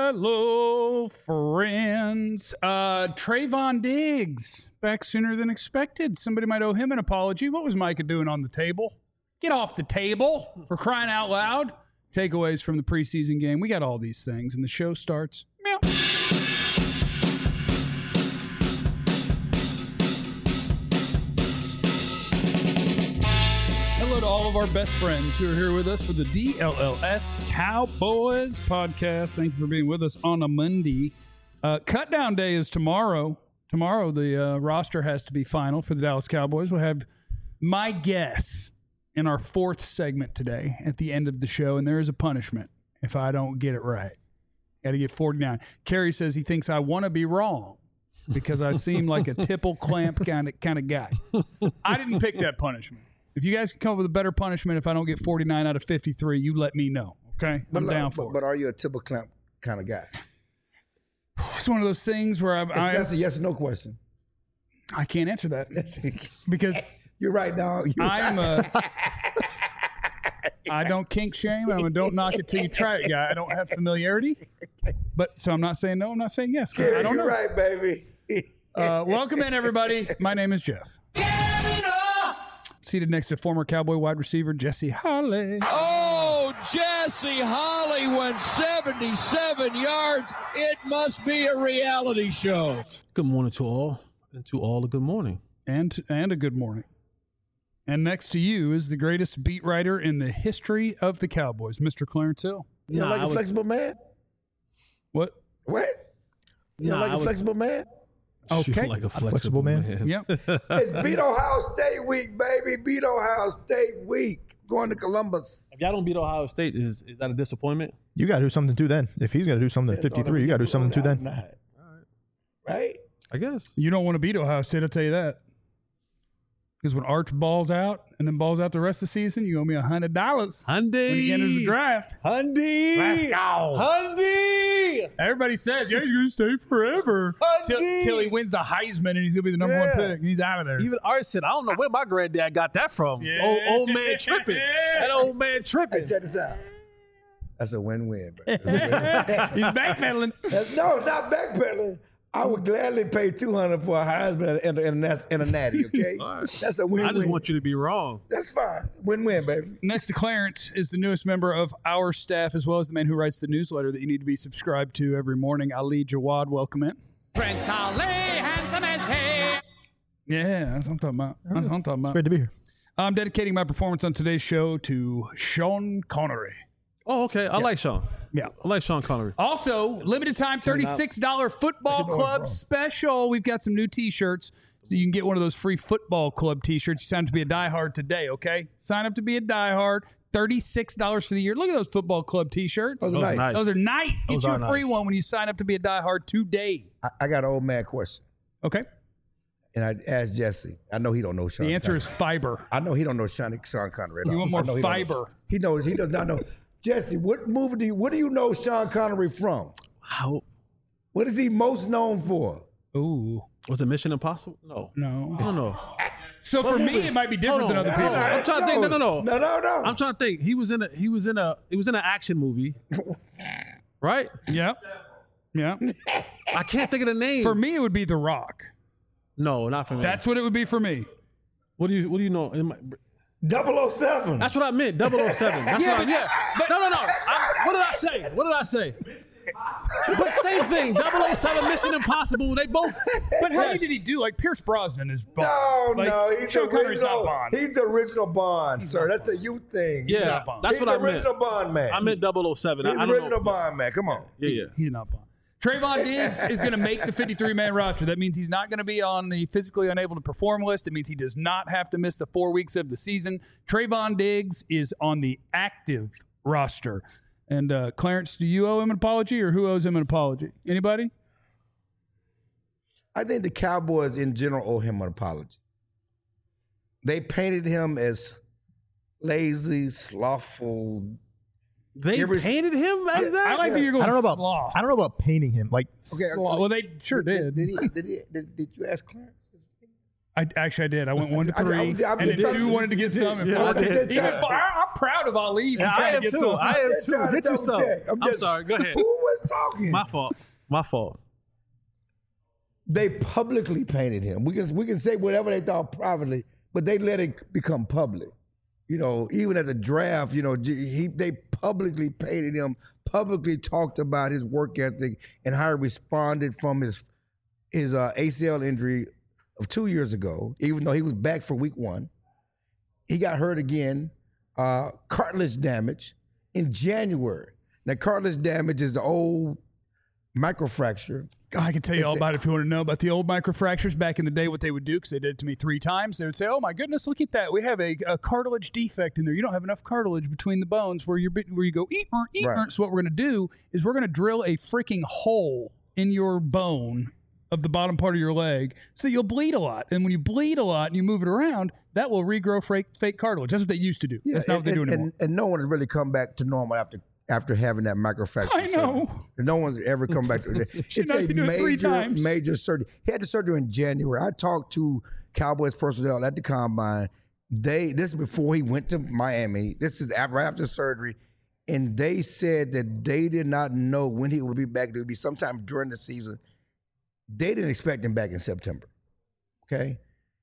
Hello, friends. Trayvon Diggs back sooner than expected. Somebody might owe him an apology. What was Micah doing on the table? Get off the table, for crying out loud. Takeaways from the preseason game. We got all these things, and the show starts. Meow. Hello to all of our best friends who are here with us for the DLLS Cowboys podcast. Thank you for being with us on a Monday. Cut down day is tomorrow. Tomorrow, the roster has to be final for the Dallas Cowboys. We'll have my guess in our fourth segment today at the end of the show, and there is a punishment if I don't get it right. Got to get 49. Kerry says he thinks I want to be wrong because I seem like a tipple clamp kind of guy. I didn't pick that punishment. If you guys can come up with a better punishment if I don't get 49 out of 53, you let me know, okay? I'm down for it. But are you a tipple clamp kind of guy? It's one of those things where that's a yes or no question. I can't answer that because you're right, dog. I don't kink shame. I'm a don't knock it till you try it guy. I don't have familiarity, but so I'm not saying no. I'm not saying yes. I don't know. You're right, baby. Welcome in, everybody. My name is Jeff. Seated next to former Cowboy wide receiver Jesse Holley. Oh, Jesse Holley went 77 yards. It must be a reality show. Good morning to all, and to all a good morning. And a good morning. And next to you is the greatest beat writer in the history of the Cowboys, Mr. Clarence Hill. You know, like a flexible man? What? What? You know, like a flexible man? Okay. Like a flexible man. Yep. It's beat Ohio State week, baby. Beat Ohio State week. Going to Columbus. If y'all don't beat Ohio State, is that a disappointment? You got to do something too then. If he's going to do something at 53, you got to do something too then. All right. Right? I guess. You don't want to beat Ohio State, I'll tell you that. Because when Arch balls out and then balls out the rest of the season, you owe me $100 Hyundai. when he enters the draft. Hyundai. Let's go. Hyundai. Everybody says, yeah, he's going to stay forever till he wins the Heisman and he's going to be the number one pick. And he's out of there. Even Art said, I don't know where my granddad got that from. Yeah. Old man tripping. That old man tripping. Hey, check this out. That's a win-win, bro. He's backpedaling. No, it's not backpedaling. I would gladly pay $200 for a Heisman and a natty, okay? Right. That's a win-win. I just want you to be wrong. That's fine. Win-win, baby. Next to Clarence is the newest member of our staff, as well as the man who writes the newsletter that you need to be subscribed to every morning, Ali Jawad. Welcome in. Prince Ali, handsome as he. Yeah, that's what I'm talking about. That's what I'm talking about. Great to be here. I'm dedicating my performance on today's show to Sean Connery. Oh, okay. I like Sean. Yeah. I like Sean Connery. Also, limited time $36 football club special. We've got some new t-shirts. So you can get one of those free football club t-shirts. You sign up to be a diehard today, okay? Sign up to be a diehard. $36 for the year. Look at those football club t-shirts. Those are nice. Those are nice. Get Those you are a free nice. one when you sign up to be a diehard today. I got an old man question. Okay? And I asked Jesse. I know he don't know Sean. The answer Connery. is fiber. I know he don't know Sean Connery at all. You want more I know he don't know. fiber. He knows. He does not know. Jesse, what do you know Sean Connery from? How What is he most known for? Ooh. was it Mission Impossible? No. No. I don't know. So for me, it might be different than other people. I'm trying to think. No. No. I'm trying to think. He was in an action movie. Right? Yeah. Yeah. I can't think of the name. For me, it would be The Rock. No, not for me. That's what it would be for me. What do you know? 007. That's what I meant. 007. That's what I meant. but- No. What did I say? What did I say? But same thing. 007, Mission Impossible. They both. But how many Yes. did he do? Like Pierce Brosnan is Bond. No, he's Sean the Connery's not original. Bond. He's the original Bond, sir. That's a you thing. Yeah, not Bond. that's he's what I the meant. original Bond man. I meant 007. He's I the don't original know. Bond man. Come on. Yeah. He's not Bond. Trayvon Diggs is going to make the 53-man roster. That means he's not going to be on the physically unable to perform list. It means he does not have to miss the 4 weeks of the season. Trayvon Diggs is on the active roster. And Clarence, do you owe him an apology, or who owes him an apology? Anybody? I think the Cowboys in general owe him an apology. They painted him as lazy, slothful. They painted him as that? I like that you're going I don't know sloth. about painting him. Like, Sloth. Well, they sure did. Did you ask Clarence? I did. I went 1 to 3, I'm and just then trying 2 to- wanted to get some. And Yeah, 4 I did. even I'm proud of Ali. for Yeah, trying I to am get too. some. I am just too. trying to Get you double some. check. I'm sorry. Go ahead. Who was talking? My fault. My fault. They publicly painted him. We can say whatever they thought privately, but they let it become public. You know, even at the draft, you know, they publicly painted him, publicly talked about his work ethic and how he responded from his ACL injury of 2 years ago, even though he was back for week 1. He got hurt again, cartilage damage in January. Now, cartilage damage is the old microfracture. I can tell you all about it if you want to know about the old microfractures back in the day, what they would do, because they did it to me 3 times. They would say, oh, my goodness, look at that. We have a cartilage defect in there. You don't have enough cartilage between the bones where you go, Right. So what we're going to do is we're going to drill a freaking hole in your bone of the bottom part of your leg so that you'll bleed a lot. And when you bleed a lot and you move it around, that will regrow fake cartilage. That's what they used to do. Yeah, That's not what they do anymore. And no one has really come back to normal after having that microfracture. I know. surgery. No one's ever come back to it. It's not a to do it 3 times. major surgery. He had the surgery in January. I talked to Cowboys personnel at the combine. This is before he went to Miami. This is right after surgery. And they said that they did not know when he would be back. It would be sometime during the season. They didn't expect him back in September. Okay?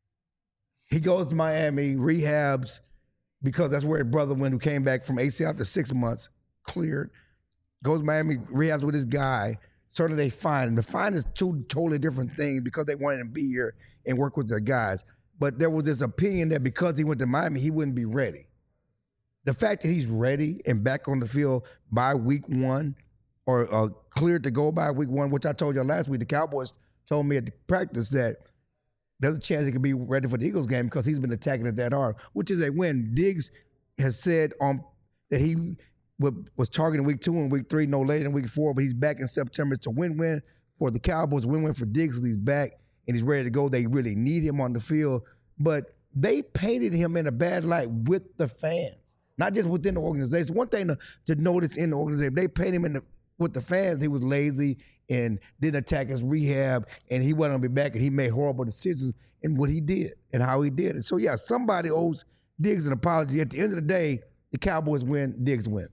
He goes to Miami, rehabs, because that's where his brother went, who came back from ACL after 6 months, cleared, goes to Miami, rehabs with his guy. Certainly they find him. The find is 2 totally different things because they wanted him to be here and work with their guys. But there was this opinion that because he went to Miami, he wouldn't be ready. The fact that he's ready and back on the field by week 1 or cleared to go by week 1, which I told you last week, the Cowboys told me at the practice that there's a chance he could be ready for the Eagles game because he's been attacking it that hard, which is a win. Diggs has said that he was targeting week 2 and week 3, no later than week 4, but he's back in September. It's a win-win for the Cowboys, win-win for Diggs because he's back and he's ready to go. They really need him on the field, but they painted him in a bad light with the fans, not just within the organization. One thing to notice in the organization, they painted him with the fans. He was lazy and didn't attack his rehab, and he wasn't going to be back, and he made horrible decisions in what he did and how he did it. So, yeah, somebody owes Diggs an apology. At the end of the day, the Cowboys win, Diggs win.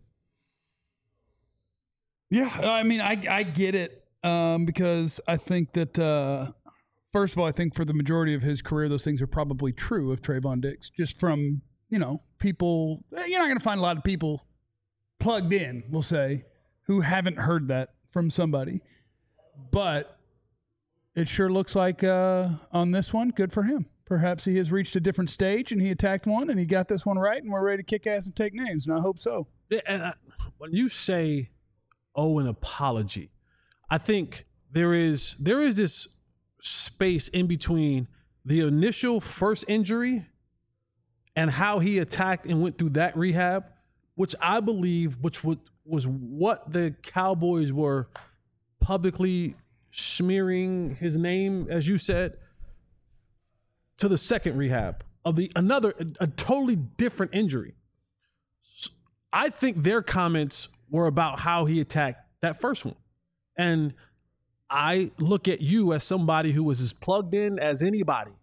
Yeah, I mean, I get it because I think that, first of all, I think for the majority of his career, those things are probably true of Trayvon Diggs, just from, people. You're not going to find a lot of people plugged in, we'll say, who haven't heard that from somebody. But it sure looks like on this one, good for him. Perhaps he has reached a different stage and he attacked one and he got this one right and we're ready to kick ass and take names, and I hope so. And when you say, an apology, I think there is this space in between the initial first injury and how he attacked and went through that rehab, which I believe, was what the Cowboys were publicly smearing his name, as you said, to the second rehab of a totally different injury. I think their comments were about how he attacked that first one. And I look at you as somebody who was as plugged in as anybody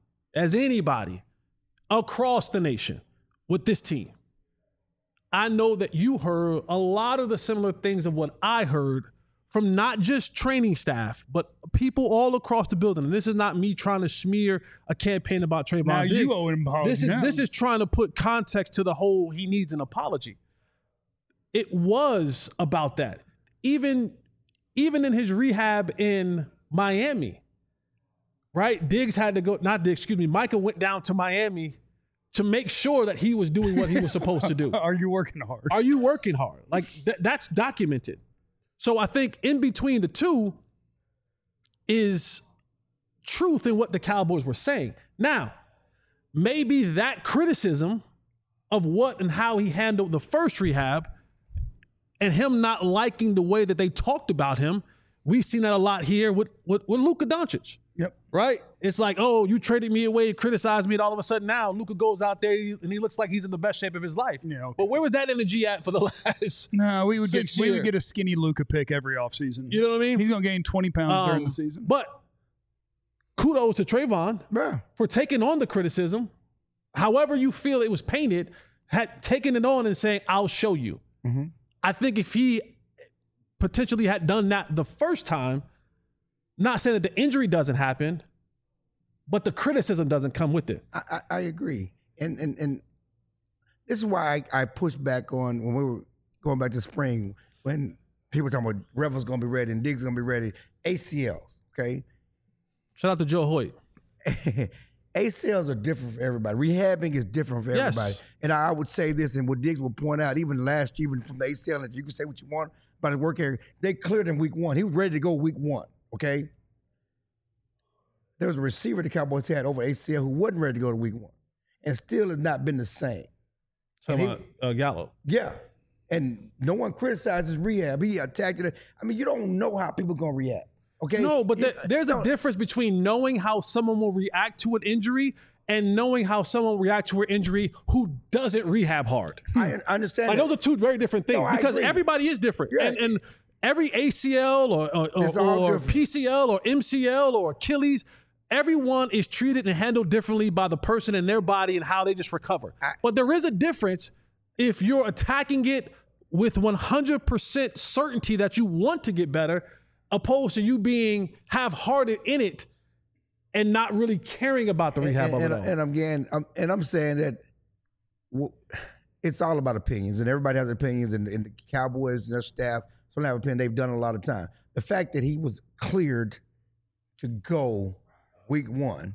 across the nation with this team. I know that you heard a lot of the similar things of what I heard from not just training staff, but people all across the building. And this is not me trying to smear a campaign about Trayvon Now Diggs. you owe him an apology. This is trying to put context to the whole he needs an apology. It was about that. Even in his rehab in Miami, right? Micah went down to Miami to make sure that he was doing what he was supposed to do. Are you working hard? Are you working hard? Like that's documented. So I think in between the two is truth in what the Cowboys were saying. Now, maybe that criticism of what and how he handled the first rehab and him not liking the way that they talked about him, we've seen that a lot here with Luka Doncic. Yep. Right? It's like, oh, you traded me away, criticized me, and all of a sudden now Luka goes out there and he looks like he's in the best shape of his life. Yeah, okay. But where was that energy at for the last No, we would six get years? a skinny Luka pick every offseason. You know what I mean? He's going to gain 20 pounds during the season. But kudos to Trayvon for taking on the criticism. However you feel it was painted, had taken it on and saying, I'll show you. Mm-hmm. I think if he potentially had done that the first time, not saying that the injury doesn't happen, but the criticism doesn't come with it. I agree. And this is why I pushed back on when we were going back to spring, when people were talking about Revel's going to be ready and Diggs going to be ready. ACLs, okay? Shout out to Joe Hoyt. ACLs are different for everybody. Rehabbing is different for everybody. Yes. And I would say this, and what Diggs will point out, even last year, even from the ACL, and you can say what you want about his work area, they cleared him week 1. He was ready to go week 1, okay? There was a receiver the Cowboys had over ACL who wasn't ready to go to week 1 and still has not been the same. Talking about Gallup. Yeah. And no one criticizes rehab. He attacked it. I mean, you don't know how people are going to react. Okay. No, but there's a difference between knowing how someone will react to an injury and knowing how someone will react to an injury who doesn't rehab hard. I understand. Like, those are two very different things because agree. everybody is different. Yeah. And every ACL or PCL or MCL or Achilles, everyone is treated and handled differently by the person and their body and how they just recover. But there is a difference if you're attacking it with 100% certainty that you want to get better, opposed to you being half-hearted in it and not really caring about the rehab of it all. And I'm saying that it's all about opinions, and everybody has opinions, and the Cowboys and their staff don't have opinion. They've done a lot of time. The fact that he was cleared to go week 1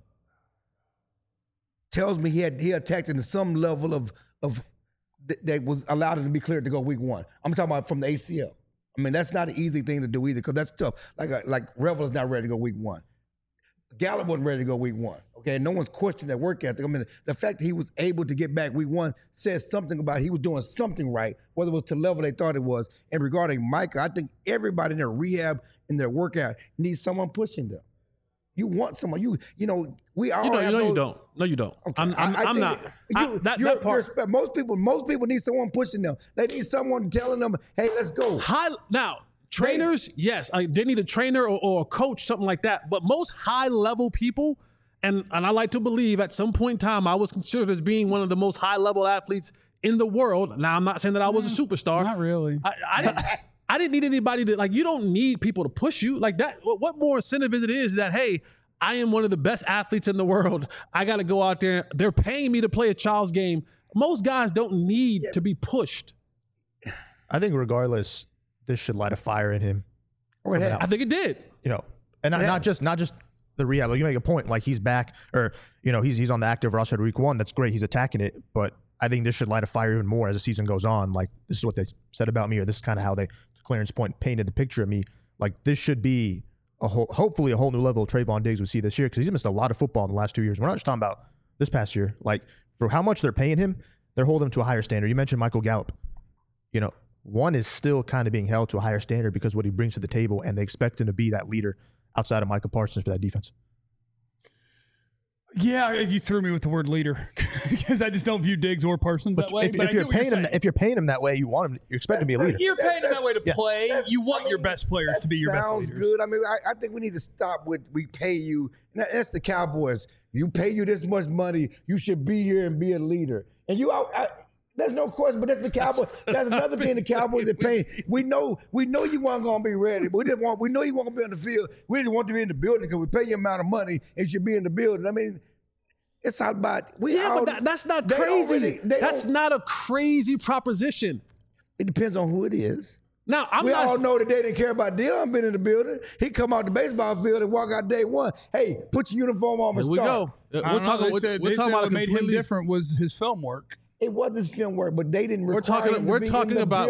tells me he attacked into some level of that was allowed him to be cleared to go week 1. I'm talking about from the ACL. I mean, that's not an easy thing to do either, because that's tough. Like Revel is not ready to go week 1. Gallup wasn't ready to go week 1. Okay, no one's questioning that work ethic. I mean, the fact that he was able to get back week 1 says something about he was doing something right, whether it was to the level they thought it was. And regarding Micah, I think everybody in their rehab and their workout needs someone pushing them. You want someone. You don't. No, you don't. Okay. I'm not. That part. Most people need someone pushing them. They need someone telling them, "Hey, let's go." Now, trainers, yes, they need a trainer or a coach, something like that. But most high-level people, and I like to believe at some point in time I was considered as being one of the most high-level athletes in the world. Now, I'm not saying that I was a superstar. Not really. I didn't need anybody to, you don't need people to push you like that. What more incentive is that, hey, I am one of the best athletes in the world. I got to go out there. They're paying me to play a child's game. Most guys don't need to be pushed. I think regardless, this should light a fire in him. I think it did. And not just the rehab. Like, you make a point, like he's back, or he's on the active roster week 1. That's great. He's attacking it, but I think this should light a fire even more as the season goes on. Like, this is what they said about me, or this is kind of how they, to Clarence point, painted the picture of me. Like, this should be hopefully a whole new level of Trayvon Diggs we see this year, because he's missed a lot of football in the last 2 years. We're not just talking about this past year. Like, for how much they're paying him, they're holding him to a higher standard. You mentioned Michael Gallup. One is still kind of being held to a higher standard because what he brings to the table, and they expect him to be that leader outside of Micah Parsons for that defense. Yeah, you threw me with the word leader because I just don't view Diggs or Parsons that way. If you're paying him that way, you want him. You expect him to be a leader. You're paying him that way to play. You want your best players to be your best leaders. Sounds good. I mean, I think we need to stop with we pay you. That's the Cowboys. You pay you this much money, you should be here and be a leader. And there's no question, but that's the Cowboys. That's another thing the Cowboys are paying. We know you weren't going to be ready, but we know you weren't going to be on the field. We didn't want to be in the building because we pay you amount of money and you should be in the building. I mean, it's all about but that's not crazy. That's not a crazy proposition. It depends on who it is. Now, we all know that they didn't care about Deion being in the building. He come out the baseball field and walk out day 1. Hey, put your uniform on and start. Here we go. We're talking about what made him different was his film work. It was his film work, but they didn't. We're talking about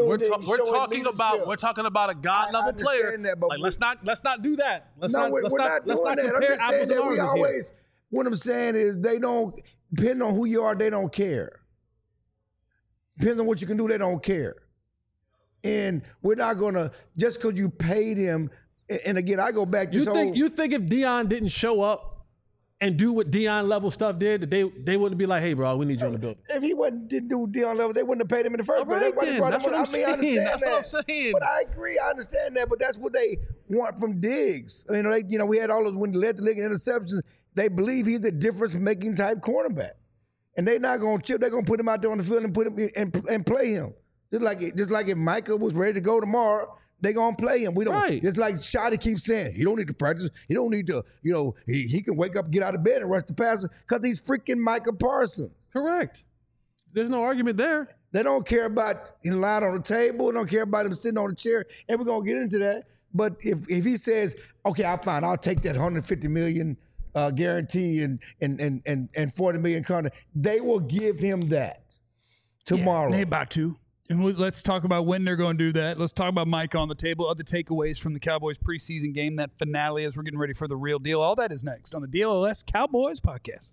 a God level player. Like, let's not do that. Let's not compare apples and oranges. What I'm saying is they don't, depending on who you are, they don't care. Depends on what you can do, they don't care. And we're not going to, just because you paid him, and again, I go back to you think if Deion didn't show up and do what Deion level stuff did, that they wouldn't be like, hey, bro, we need you in the building. If he didn't do Deion level, they wouldn't have paid him in the first place. Right, then. That's what I'm saying. I understand That's that. what I'm saying. But I agree. I understand that. But that's what they want from Diggs. We had all those when he led the league in interceptions. They believe he's a difference-making type cornerback. And they're not going to chip. They're going to put him out there on the field and put him and play him. Just like if Micah was ready to go tomorrow, they're going to play him. We don't. Right. It's like Shotty keeps saying, he don't need to practice. He don't need to, he can wake up, get out of bed and rush the passer because he's freaking Micah Parsons. Correct. There's no argument there. They don't care about him lying on the table. They don't care about him sitting on the chair. And we're going to get into that. But if he says, okay, I'll take that $150 million guarantee and $40 million contract, they will give him that tomorrow. Yeah, they about to. And let's talk about when they're going to do that. Let's talk about Mike on the table, other takeaways from the Cowboys preseason game, that finale as we're getting ready for the real deal. All that is next on the DLLS Cowboys podcast.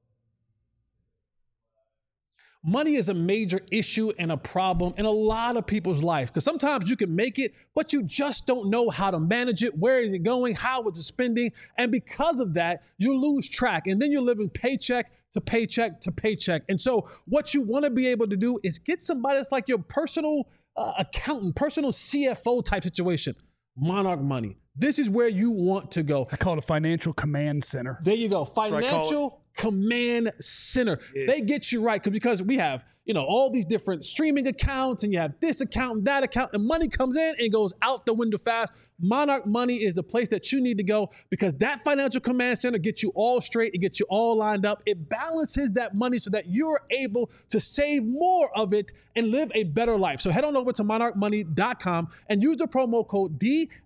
Money is a major issue and a problem in a lot of people's life because sometimes you can make it, but you just don't know how to manage it. Where is it going? How is it spending? And because of that, you lose track and then you're living paycheck to paycheck to paycheck. And so what you want to be able to do is get somebody that's like your personal accountant, personal CFO type situation. Monarch Money. This is where you want to go. I call it a financial command center. There you go. Financial Command Center. Yeah. They get you right because we have, all these different streaming accounts and you have this account and that account and money comes in and goes out the window fast. Monarch Money is the place that you need to go because that Financial Command Center gets you all straight. It gets you all lined up. It balances that money so that you're able to save more of it and live a better life. So head on over to monarchmoney.com and use the promo code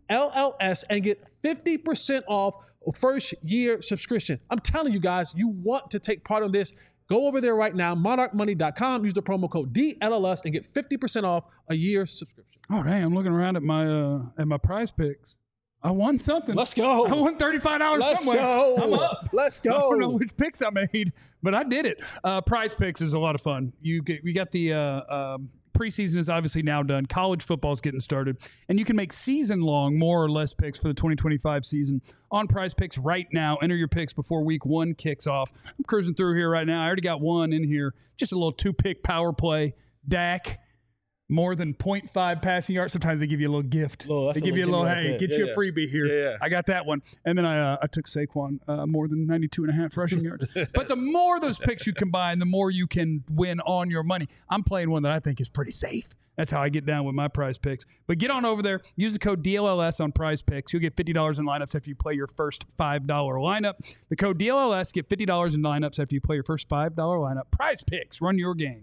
DLLS and get 50% off first year subscription. I'm telling you guys, you want to take part of this. Go over there right now, monarchmoney.com, use the promo code DLLS and get 50% off a year subscription. Oh, dang, I'm looking around at my prize picks. I won something. Let's go. I won $35 Let's somewhere. go. I'm up. Let's go. I don't know which picks I made, but I did it. Prize picks is a lot of fun. We got the preseason is obviously now done. College football is getting started, and you can make season-long more or less picks for the 2025 season on Prize Picks right now. Enter your picks before week 1 kicks off. I'm cruising through here right now. I already got one in here. Just a little 2-pick power play. Dak. More than 0.5 passing yards. Sometimes they give you a little gift. They give you a little, hey, get you a freebie here. Yeah. I got that one. And then I took Saquon more than 92.5 rushing yards. But the more those picks you combine, the more you can win on your money. I'm playing one that I think is pretty safe. That's how I get down with my prize picks. But get on over there. Use the code DLLS on prize picks. You'll get $50 in lineups after you play your first $5 lineup. The code DLLS, get $50 in lineups after you play your first $5 lineup. Prize picks. Run your game.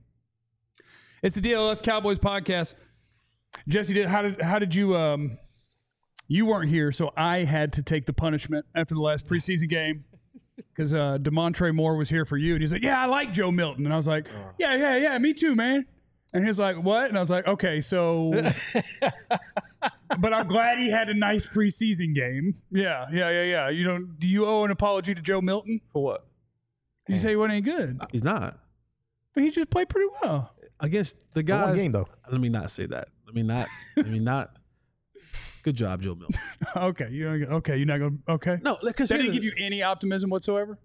It's the DLS Cowboys podcast. Jesse, how did you you weren't here, so I had to take the punishment after the last preseason game because DeMontre Moore was here for you, and he's like, yeah, I like Joe Milton. And I was like, yeah, me too, man. And he's like, what? And I was like, okay, so but I'm glad he had a nice preseason game. Yeah. Do you owe an apology to Joe Milton? For what? You say he wasn't any good. He's not. But he just played pretty well. Against the guys. One game, though. Let me not say that. Let me not. Good job, Joe Milton. Okay. You're not going to. Okay. No, because that didn't give you any optimism whatsoever?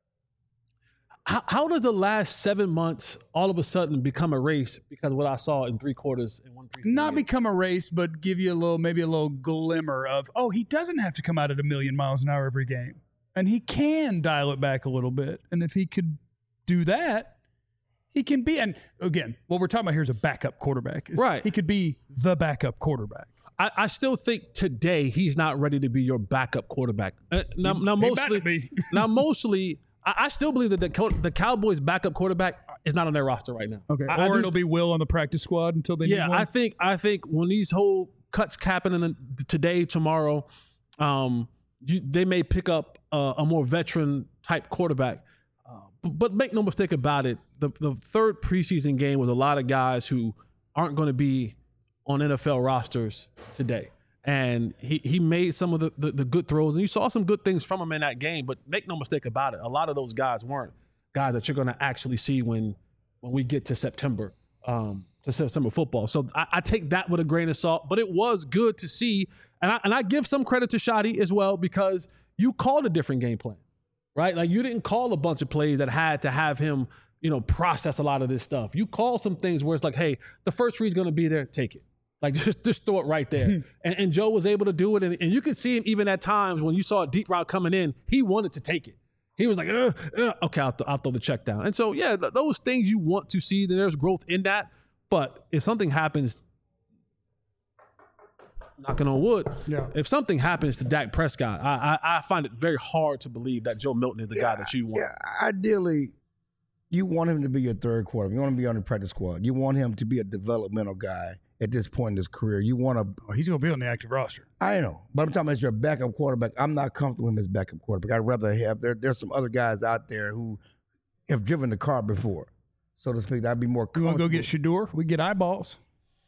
How does the last 7 months all of a sudden become a race because of what I saw in 3 quarters in 1 3 Not become a race, but give you maybe a little glimmer of, he doesn't have to come out at 1,000,000 miles an hour every game. And he can dial it back a little bit. And if he could do that, he can be, and again, what we're talking about here is a backup quarterback. Right. He could be the backup quarterback. I still think today he's not ready to be your backup quarterback. Mostly, I still believe that the Cowboys' backup quarterback is not on their roster right now. Okay, it'll be Will on the practice squad until they need one. I think when these whole cuts happen today, tomorrow, they may pick up a more veteran type quarterback. But make no mistake about it, the third preseason game was a lot of guys who aren't going to be on NFL rosters today. And he made some of the good throws, and you saw some good things from him in that game. But make no mistake about it, a lot of those guys weren't guys that you're going to actually see when we get to September football. So I take that with a grain of salt. But it was good to see, and I give some credit to Shotty as well because you called a different game plan. right? Like you didn't call a bunch of plays that had to have him, process a lot of this stuff. You call some things where it's like, hey, the first read's going to be there, take it. Like just throw it right there. and Joe was able to do it. And you could see him even at times when you saw a deep route coming in, he wanted to take it. He was like, okay, I'll throw the check down. And so, yeah, those things you want to see, there's growth in that. But if something happens, knocking on wood, if something happens to Dak Prescott, I find it very hard to believe that Joe Milton is the guy that you want. Yeah, ideally, you want him to be your third quarterback. You want him to be on the practice squad. You want him to be a developmental guy at this point in his career. You want to. Oh, he's going to be on the active roster. I know, but I'm talking about as your backup quarterback. I'm not comfortable with him as backup quarterback. I'd rather have. There's some other guys out there who have driven the car before, so to speak. I'd be more You comfortable. want to go get Shador? We get eyeballs.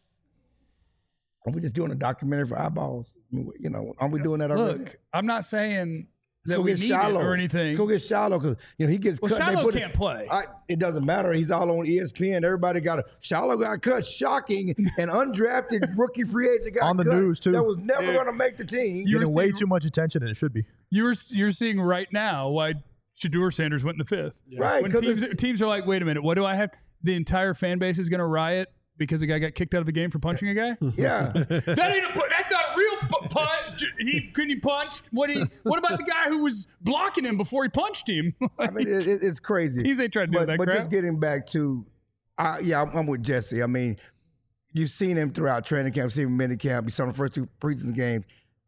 Are we just doing a documentary for eyeballs? Aren't we doing that already? Look, I'm not saying Let's that go we get need Shiloh it or anything. Let's go get Shiloh because he gets Well, cut. and they Shiloh put can't play. It doesn't matter. He's all on ESPN. Everybody got Shiloh got cut. Shocking. An undrafted rookie free agent got On the cut. news, too. That was never going to make the team. You were Getting way seeing- too much attention than it should be. You're seeing right now why Shador Sanders went in the fifth. Right, When 'cause teams are like, wait a minute, what do I have? The entire fan base is going to riot because a guy got kicked out of the game for punching a guy? Yeah. That ain't that's not a real punch. He punched. What about the guy who was blocking him before he punched him? I mean, it's crazy. Teams ain't trying to do that But crap. just getting back to, I'm with Jesse. I mean, you've seen him throughout training camp, seen him in mini camp. You saw him the first two preseason games,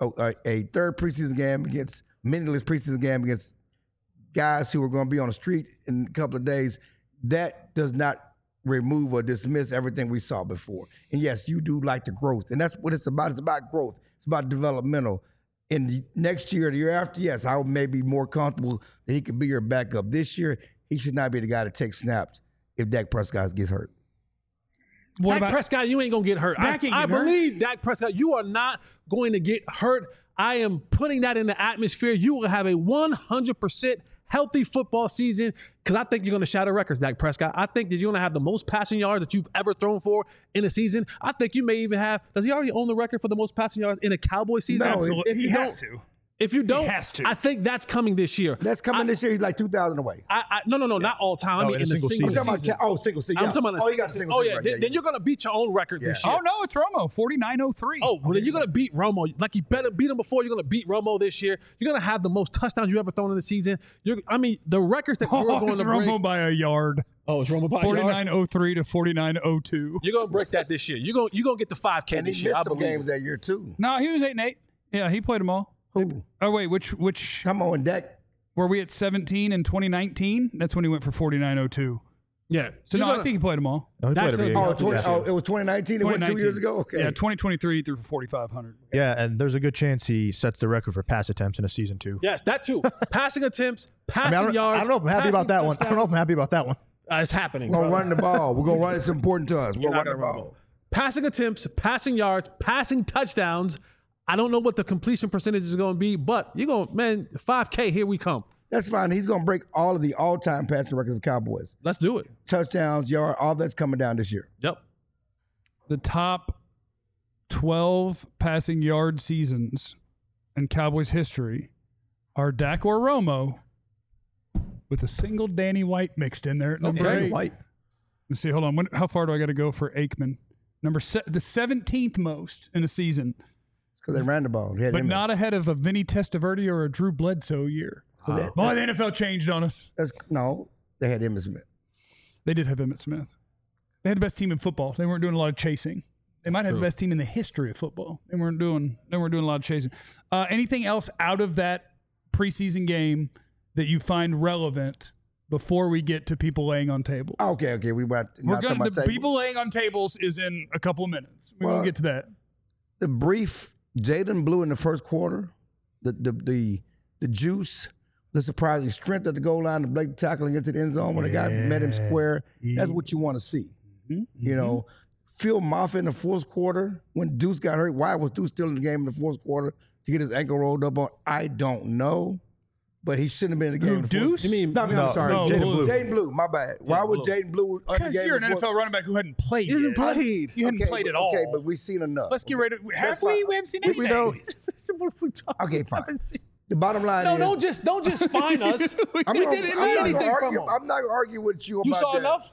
a third preseason game against meaningless preseason game against guys who are going to be on the street in a couple of days. That does not remove or dismiss everything we saw before. And yes, you do like the growth. And that's what it's about. It's about growth. It's about developmental. In the next year, the year after, yes, I may be more comfortable that he could be your backup. This year, he should not be the guy to take snaps if Dak Prescott gets hurt. Dak Prescott, you ain't going to get hurt. I believe Dak Prescott, you are not going to get hurt. I am putting that in the atmosphere. You will have a 100% healthy football season because I think you're going to shatter records, Dak Prescott. I think that you're going to have the most passing yards that you've ever thrown for in a season. I think you may even have – does he already own the record for the most passing yards in a Cowboys season? No, Absolutely. He has to. If you don't, He has to. I think that's coming this year. That's coming this year. He's like 2,000 away. No, not all time. I mean, in a single season. I'm talking about single season. I'm talking about you got a single Oh, season. yeah. Right. Then you're going to beat your own record this year. Oh, no, it's Romo, 49-03. Oh, well, then you're going to beat Romo. Like, you better beat him before. You're going to beat Romo this year. You're going to have the most touchdowns you ever thrown in the season. The records that you're going it's to break. Romo by a yard. Oh, it's Romo by a yard? 49-03 to 49-02. You're going to break that this year. You're going to get the 5K And this he year. missed I some believe games that year, too. No, he was 8-8. Yeah, he played them all. Who? Oh, wait, which Come on, Dak. were we at 17 in 2019? That's when he went for 49-02. Yeah. So, no, I think he played them all. No, he played every game. Oh, it was 2019? It went 2 years ago? Okay. Yeah, 2023 he threw for 4,500. Yeah, and there's a good chance he sets the record for pass attempts in a season too. Yes, that too. Passing attempts, I passing yards. don't know if I'm happy about that one. I don't know if I'm happy about that one. It's happening. We're going to run the ball. We're going to run. It's important to us. We're You're going not to run the gonna ball. Passing attempts, passing yards, passing touchdowns. I don't know what the completion percentage is going to be, but you're going, 5K, here we come. That's fine. He's going to break all of the all-time passing records of Cowboys. Let's do it. Touchdowns, yard, all that's coming down this year. Yep. The top 12 passing yard seasons in Cowboys history are Dak or Romo with a single Danny White mixed in there at number 8. White. Let me see. Hold on. How far do I got to go for Aikman? The 17th most in a season, Because they ran the ball. They had but him in. not ahead of a Vinny Testaverde or a Drew Bledsoe year. Boy, the NFL changed on us. No, they had Emmitt Smith. They did have Emmitt Smith. They had the best team in football. They weren't doing a lot of chasing. They might have the best team in the history of football. They weren't doing a lot of chasing. Anything else out of that preseason game that you find relevant before we get to people laying on tables? Okay. We're We're going to people laying on tables is in a couple of minutes. We're going to get to that. The brief Jaden Blue in the first quarter, the juice, the surprising strength at the goal line, the blatant tackling into the end zone when the guy met him square. That's what you want to see. You know, Phil Moffitt in the fourth quarter when Deuce got hurt. Why was Deuce still in the game in the fourth quarter to get his ankle rolled up on? I don't know. But he shouldn't have been in the game. Who, Deuce? You mean, I'm sorry. no, Jaden Blue. Blue. Jaden Blue, my bad. Why was Jaden Blue on the Because game? you're an before? NFL running back who hadn't played He hasn't yet. played. You hadn't played at all. Okay, but we've seen enough. Let's get ready. Have That's we? fine. We haven't seen We anything. don't. Okay, fine. The bottom line No, is... don't just find us. We didn't see anything from him. I'm not going to argue with you You about saw that. enough?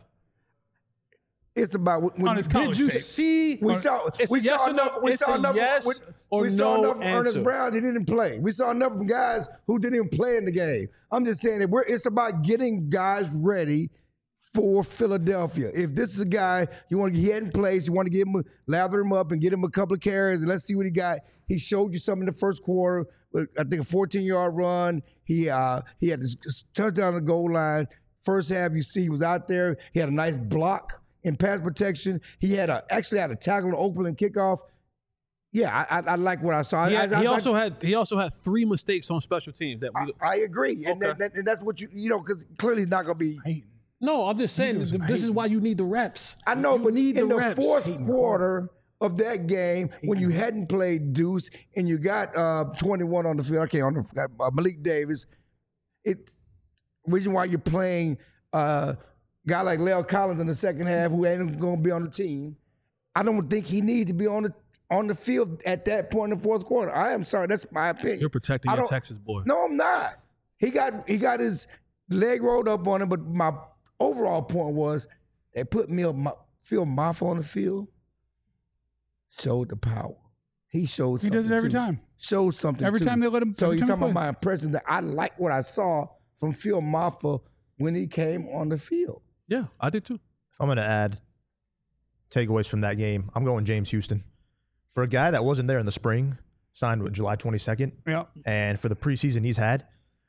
It's about when On his college Did you tape. see? we saw It's we a yes saw or no. enough. We It's saw a enough. yes or we saw no enough of Ernest answer. Brown. He didn't play. We saw enough of guys who didn't even play in the game. I'm just saying that it's about getting guys ready for Philadelphia. If this is a guy he hadn't played, you want to give him lather him up and get him a couple of carries and let's see what he got. He showed you something in the first quarter. I think a 14-yard run. He had this touchdown on the goal line. First half, you see he was out there. He had a nice block in pass protection. He actually had a tackle to opening kickoff. Yeah, I like what I saw. He also had 3 mistakes on special teams. I agree, and that's what because clearly he's not going to be. No, I'm just saying this is why you need the reps. I know, you but need in the reps. fourth quarter of that game, when you hadn't played Deuce and you got 21 on the field, forgot Malik Davis. It's reason why you're playing a guy like La'el Collins in the second half who ain't going to be on the team. I don't think he needs to be on the field at that point in the fourth quarter. I am sorry, that's my opinion. You're protecting your Texas boy. No, I'm not. He got his leg rolled up on him, but my overall point was they put Phil Maffa on the field, showed the power. He showed something. He does it every too. time. Showed something Every too. time they let him. So you're talking about my. my impression that I like what I saw from Phil Maffa when he came on the field. Yeah, I did too. If I'm going to add takeaways from that game, I'm going James Houston. For a guy that wasn't there in the spring, signed with July 22nd, Yeah. and for the preseason he's had,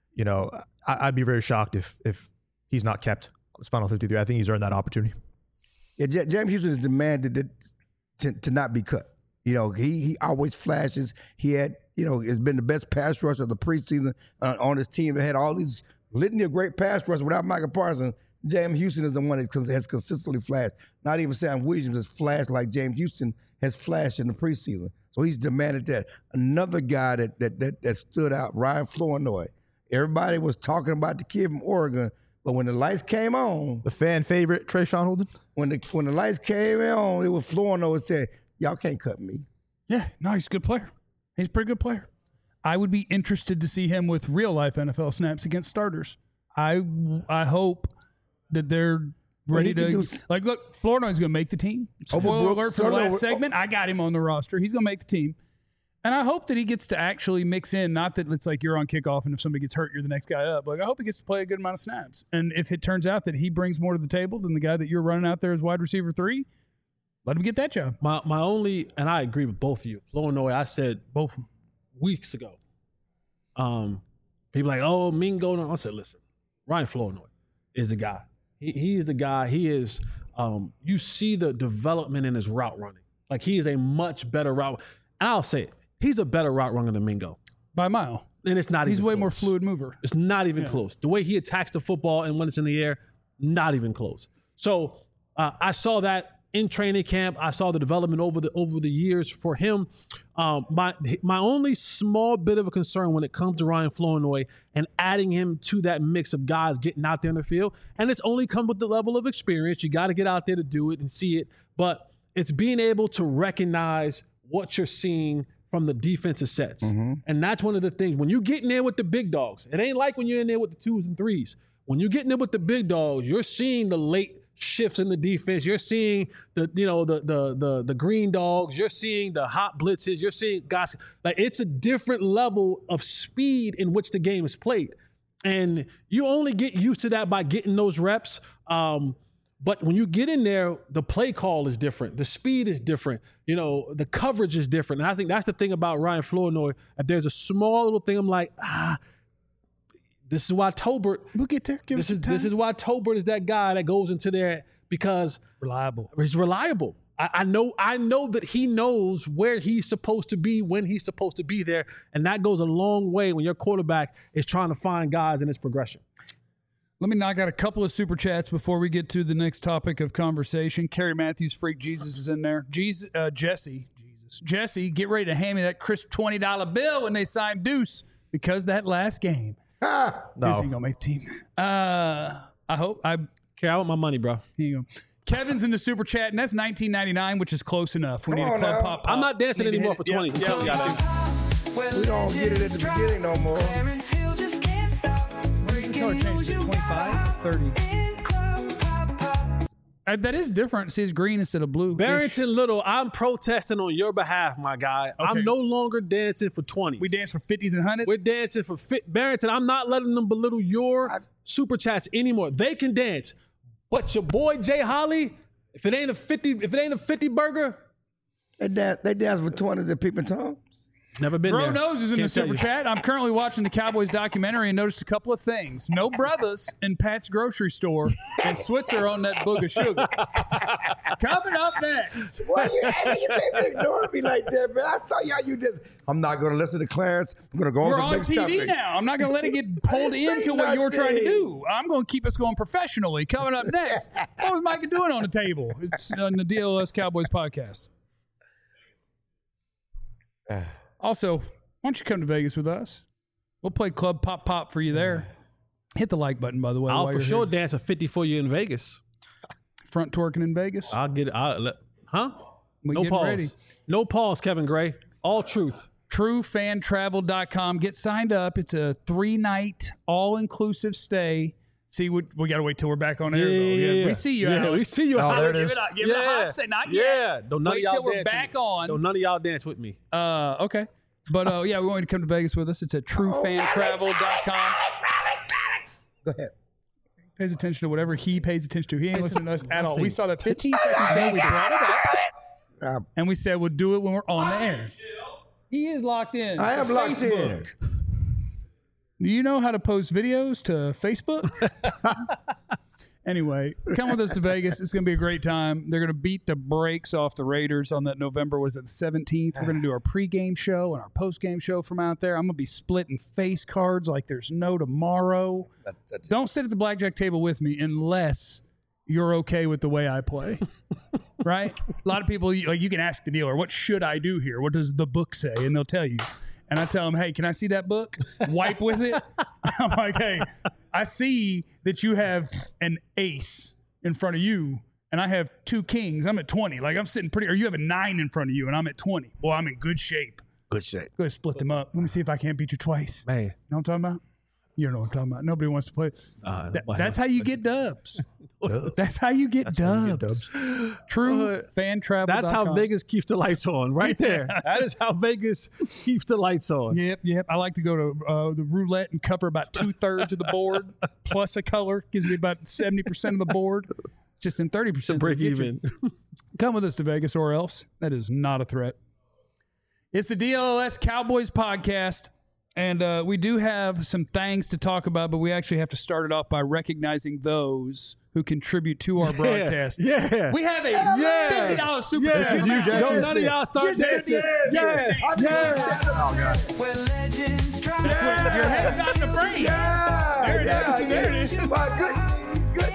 I'd be very shocked if he's not kept on his final 53. I think he's earned that opportunity. Yeah, James Houston is demanded to not be cut. He always flashes. He had, has been the best pass rusher of the preseason on his team. They had all these litany of great pass rushers without Michael Parsons. James Houston is the one that has consistently flashed. Not even Sam Williams has flashed like James Houston has flashed in the preseason. So he's demanded that. Another guy that stood out, Ryan Flournoy. Everybody was talking about the kid from Oregon, but when the lights came on, The fan favorite, Trayshawn Holden. when the lights came on, it was Flournoy that said, "Y'all can't cut me." Yeah. No, he's a good player. He's a pretty good player. I would be interested to see him with real life NFL snaps against starters. I hope that they're ready to look. Flournoy's going to make the team. Spoiler alert for the last segment. I got him on the roster. He's going to make the team. And I hope that he gets to actually mix in, not that it's like you're on kickoff and if somebody gets hurt, you're the next guy up. Like, I hope he gets to play a good amount of snaps. And if it turns out that he brings more to the table than the guy that you're running out there as wide receiver 3, let him get that job. My only, and I agree with both of you. Flournoy, I said Both of them. weeks ago. People like, oh, Mingo. No. I said, listen, Ryan Flournoy is the guy. He is the guy. He is. You see the development in his route running. Like, he is a much better route. And I'll say it. He's a better route runner than Mingo. By a mile. And it's not He's even way close. more fluid mover. It's not even close. The way he attacks the football and when it's in the air, not even close. So I saw that in training camp. I saw the development over the years for him. My only small bit of a concern when it comes to Ryan Flournoy and adding him to that mix of guys getting out there in the field, and it's only come with the level of experience. You got to get out there to do it and see it. But it's being able to recognize what you're seeing from the defensive sets. Mm-hmm. And that's one of the things. When you get in there with the big dogs, it ain't like when you're in there with the 2s and 3s. When you get in there with the big dogs, you're seeing the late shifts in the defense. You're seeing the green dogs. You're seeing the hot blitzes. You're seeing guys. Like, it's a different level of speed in which the game is played. And you only get used to that by getting those reps. But when you get in there, the play call is different. The speed is different. The coverage is different. And I think that's the thing about Ryan Flournoy. If there's a small little thing, I'm like, this is why Tolbert. We'll get there. This is why Tolbert is that guy that goes into there because reliable. He's reliable. I know that he knows where he's supposed to be when he's supposed to be there, and that goes a long way when your quarterback is trying to find guys in his progression. Let me knock out a couple of super chats before we get to the next topic of conversation. Kerry Matthews, Freak Jesus is in there. Jesse, get ready to hand me that crisp $20 bill when they sign Deuce because that last game. Deuce ain't gonna make the team. I hope. I want my money, bro. Here you go. Kevin's in the super chat, and that's $19.99, which is close enough. We need a club pop. I'm not dancing anymore for 20. I'm telling you, I think. We don't get it at the beginning no more. The color changed to 25, 30. That is different. See, it's green instead of blue. Barrington Little, I'm protesting on your behalf, my guy. Okay. I'm no longer dancing for 20s. We dance for 50s and 100s. We're dancing for Barrington. I'm not letting them belittle your super chats anymore. They can dance, but your boy Jay Holly, if it ain't a 50 burger, They dance with 20s at Peeping Tom. never been Bro there. Knows is in the Can't tell super you. chat. I'm currently watching the Cowboys documentary and noticed a couple of things. No brothers in Pat's grocery store and Switzer on that book of sugar. Coming up next. Why you ignoring me like that, man? I saw y'all. You just. I'm not going to listen to Clarence. I'm going to go We're on on to the next TV topic. now. I'm not going to let it get pulled didn't say into what you're trying to nothing. do. I'm going to keep us going professionally. Coming up next. What was Micah doing on the table? It's on the DLS Cowboys podcast. Also, why don't you come to Vegas with us? We'll play Club Pop Pop for you there. Hit the like button, by the way. I'll while for you're sure here. dance a 50 for you in Vegas. Front twerking in Vegas. I'll get it. Huh? We No getting pause. ready. No pause, Kevin Gray. All truth. TrueFanTravel.com. Get signed up. It's a 3-night all-inclusive stay. See, we got to wait till we're back on air, though. Yeah, we see you, Yeah, Alex. we see you. Oh, there it Give is. it a, give it a hot say. Not Yeah. yet. Don't none Wait of y'all till we're dance back with me. on. Don't none of y'all dance with me. Okay. But yeah, we want you to come to Vegas with us. It's at TrueFanTravel.com. Go ahead. Pays attention to whatever he pays attention to. He ain't listening to us at all. We saw that 15 seconds ago. We brought it up. And we said we'll do it when we're on the air. He is locked in. I am to locked Facebook. in. Do you know how to post videos to Facebook? Anyway, come with us to Vegas. It's going to be a great time. They're going to beat the brakes off the Raiders on that November, was it the 17th? We're going to do our pregame show and our postgame show from out there. I'm going to be splitting face cards like there's no tomorrow. Don't sit at the blackjack table with me unless you're okay with the way I play. Right? A lot of people, like, you can ask the dealer, what should I do here? What does the book say? And they'll tell you. And I tell them, hey, can I see that book? Wipe with it. I'm like, hey, I see that you have an ace in front of you, and I have 2 kings. I'm at 20. Like, I'm sitting pretty, or you have a 9 in front of you, and I'm at 20. Boy, I'm in good shape. Good shape. Go ahead and split them up. Let me see if I can't beat you twice. Man. You know what I'm talking about? You know what I'm talking about. Nobody wants to play. That's how you get dubs. That's how you get dubs. True fan travel. That's how Vegas keeps the lights on, right there. That is how Vegas keeps the lights on. Yep. I like to go to the roulette and cover about 2/3 of the board plus a color. Gives me about 70% of the board. It's just in 30% Break even. Come with us to Vegas or else. That is not a threat. It's the DLS Cowboys podcast. And we do have some things to talk about, but we actually have to start it off by recognizing those who contribute to our broadcast. Yeah. We have a $50 super Yeah. chat. This is you, Jack. Yo, none of y'all start dancing. Yeah. When legends try. Your head's not in the frame. There it is. My good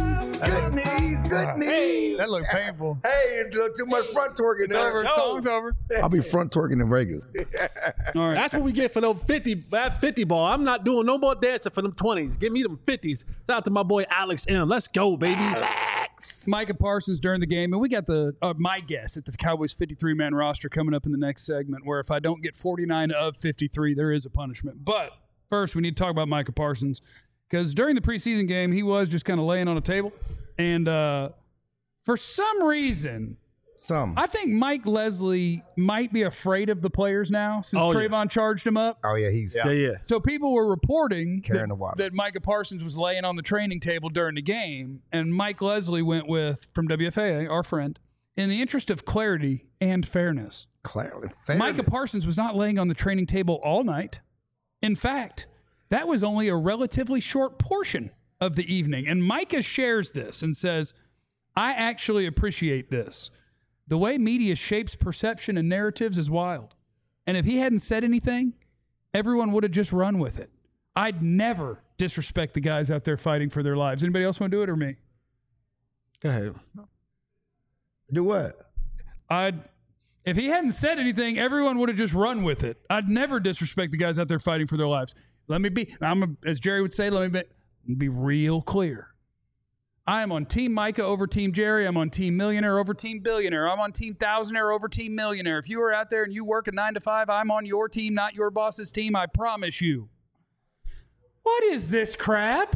knees. That looked painful. Hey, it's too much front twerking. It's over. Song's over. I'll be front twerking in Vegas. All right. That's what we get for those 50 ball. I'm not doing no more dancing for them 20s. Give me them 50s. Shout out to my boy Alex M. Let's go, baby. Micah Parsons during the game, and we got the my guess at the Cowboys 53-man roster coming up in the next segment, where if I don't get 49 of 53, there is a punishment. But first, we need to talk about Micah Parsons, because during the preseason game, he was just kind of laying on a table, and for some reason, I think Mike Leslie might be afraid of the players now since Trayvon charged him up. Oh, yeah, he's Yeah. So people were reporting Carrying the water. that Micah Parsons was laying on the training table during the game, and Mike Leslie went with, from WFAA, our friend, in the interest of clarity and fairness, clearly Micah Parsons was not laying on the training table all night. In fact, that was only a relatively short portion of the evening. And Micah shares this and says, I actually appreciate this. The way media shapes perception and narratives is wild. And if he hadn't said anything, everyone would have just run with it. I'd never disrespect the guys out there fighting for their lives. Anybody else want to do it or me? Go ahead. Do what? If he hadn't said anything, everyone would have just run with it. I'd never disrespect the guys out there fighting for their lives. Let me be, as Jerry would say, let me be real clear. I am on Team Micah over Team Jerry. I'm on Team Millionaire over Team Billionaire. I'm on Team Thousandaire over Team Millionaire. If you are out there and you work a 9 to 5, I'm on your team, not your boss's team. I promise you. What is this crap?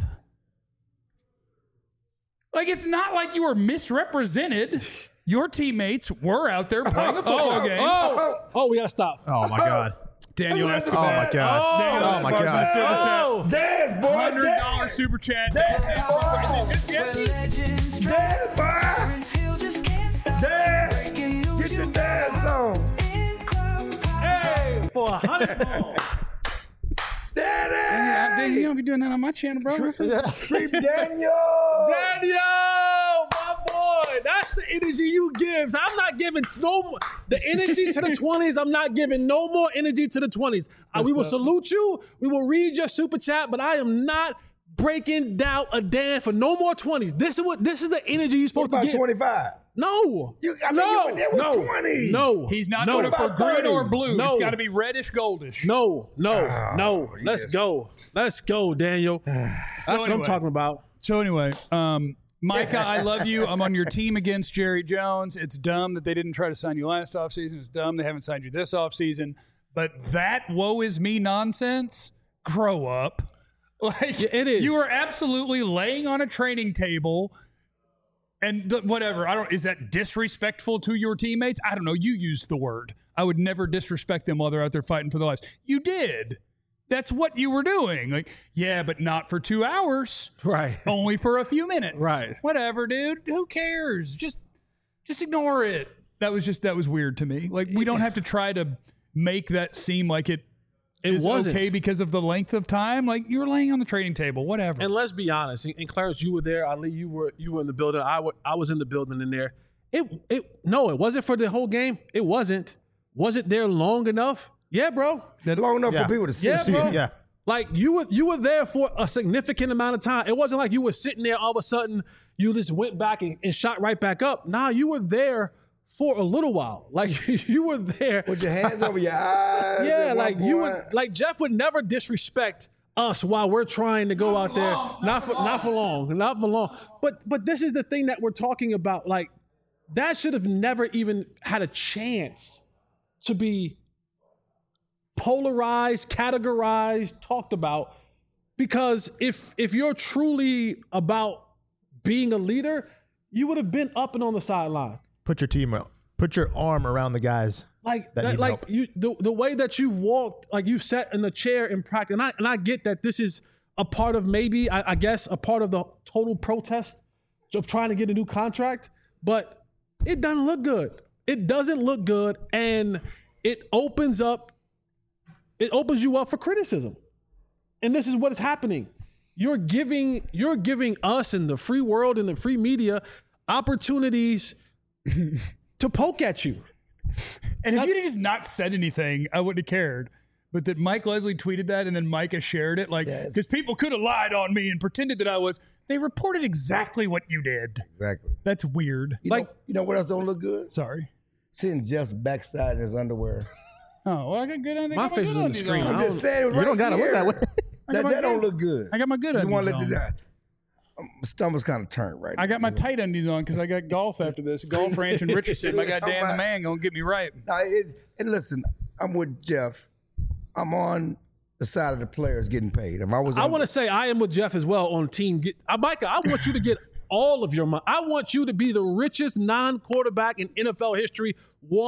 Like, it's not like you were misrepresented. Your teammates were out there playing a football game. Oh, we gotta stop. Oh my God. Daniel Oh Escobar. my God. Daniel Oh my Escobar's God. Super chat. Dance, boy. $100 super chat. Is this Jesse? Dance, boy. Prince Hill just can't stop. Dance. Breaking news, Get your you dance on. in club. Hey, for $100. Daddy. You don't be doing that on my channel, bro. Creep Daniel. Daniel, my boy, that's the energy you give. I'm not giving no more. The energy to the 20s, I'm not giving no more energy to the 20s. We will salute you. We will read your super chat, but I am not breaking down a damn for no more 20s. This is the energy you're supposed to About get. 25. No. You no. were there with no. 20. No. He's not no. voting for About green 30. or blue. No. It's got to be reddish, goldish. No. Let's yes. go. Let's go, Daniel. That's what I'm anyway. talking about. So anyway, Micah, I love you. I'm on your team against Jerry Jones. It's dumb that they didn't try to sign you last offseason. It's dumb they haven't signed you this offseason. But that woe is me nonsense, grow up. Like, Yeah, it is. You are absolutely laying on a training table and whatever. Is that disrespectful to your teammates? I don't know. You used the word. I would never disrespect them while they're out there fighting for their lives. You did. That's what you were doing. Like, yeah, but not for 2 hours. Right. Only for a few minutes. Right. Whatever, dude. Who cares? Just ignore it. That was weird to me. Like, we don't have to try to make that seem like it is wasn't. okay because of the length of time. Like, you were laying on the trading table. Whatever. And let's be honest. And Clarence, you were there. Ali, you were in the building. I was in the building in there. It wasn't for the whole game. It wasn't. Was it there long enough? Yeah, bro. Long enough for people to see. Yeah, bro. Yeah. Like you were there for a significant amount of time. It wasn't like you were sitting there all of a sudden you just went back and shot right back up. Nah, you were there for a little while. Like you were there. Put your hands over your eyes. Yeah, at like one you point. would, like Jeff would never disrespect us while we're trying to go out there. Not for long. But this is the thing that we're talking about. Like that should have never even had a chance to be polarized, categorized, talked about. Because if you're truly about being a leader, you would have been up and on the sideline. Put your team up. Put your arm around the guys. Like that need help. you the way that you've walked, like you sat in a chair in practice, and I get that this is a part of maybe I guess a part of the total protest of trying to get a new contract, but it doesn't look good. It doesn't look good, and it opens you up for criticism. And this is what is happening. You're giving us in the free world and the free media opportunities to poke at you. And if you'd just not said anything, I wouldn't have cared. But that Mike Leslie tweeted that and then Micah shared it, like, because people could have lied on me and pretended that I was. They reported exactly what you did. Exactly. That's weird. You know what else don't look good? Sorry. Seeing Jeff's backside in his underwear. Oh, well, I got good on. My face is in the screen. I'm just saying, You don't gotta look that way. That don't look good. I got my good Just want undies to let on. my stomach's kind of turned right I got my tight undies on because I got golf after this. Golf Ranch in Richardson. My guy Dan the Man gonna get me right. now. And listen, I'm with Jeff. I'm on the side of the players getting paid. If I was, I want to say I am with Jeff as well on team. Micah, I want you to get all of your money. I want you to be the richest non-quarterback in NFL history,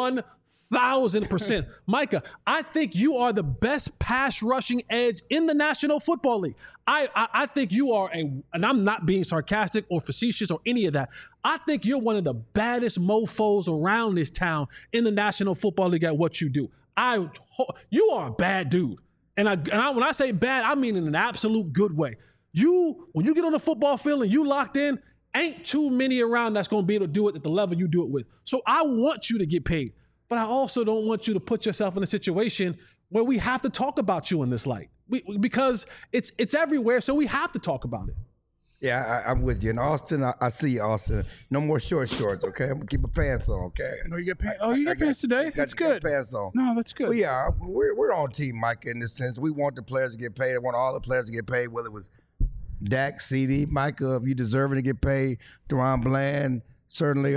1,000%. Micah, I think you are the best pass rushing edge in the National Football League. I think you are and I'm not being sarcastic or facetious or any of that. I think you're one of the baddest mofos around this town in the National Football League at what you do. You are a bad dude. And when I say bad, I mean in an absolute good way. When you get on the football field and you locked in, ain't too many around that's going to be able to do it at the level you do it with. So I want you to get paid, but I also don't want you to put yourself in a situation where we have to talk about you in this light because it's everywhere. So we have to talk about it. Yeah, I'm with you. In Austin, I see you, Austin. No more shorts, okay? I'm gonna keep my pants on, okay? Oh, you get pants. Oh, you got pants today. That's good. Got pants on. No, that's good. Well, yeah, we're on team Mike in this sense. We want the players to get paid. I want all the players to get paid, whether it was Dak, CD, Micah, if you deserving to get paid. Deron Bland, certainly.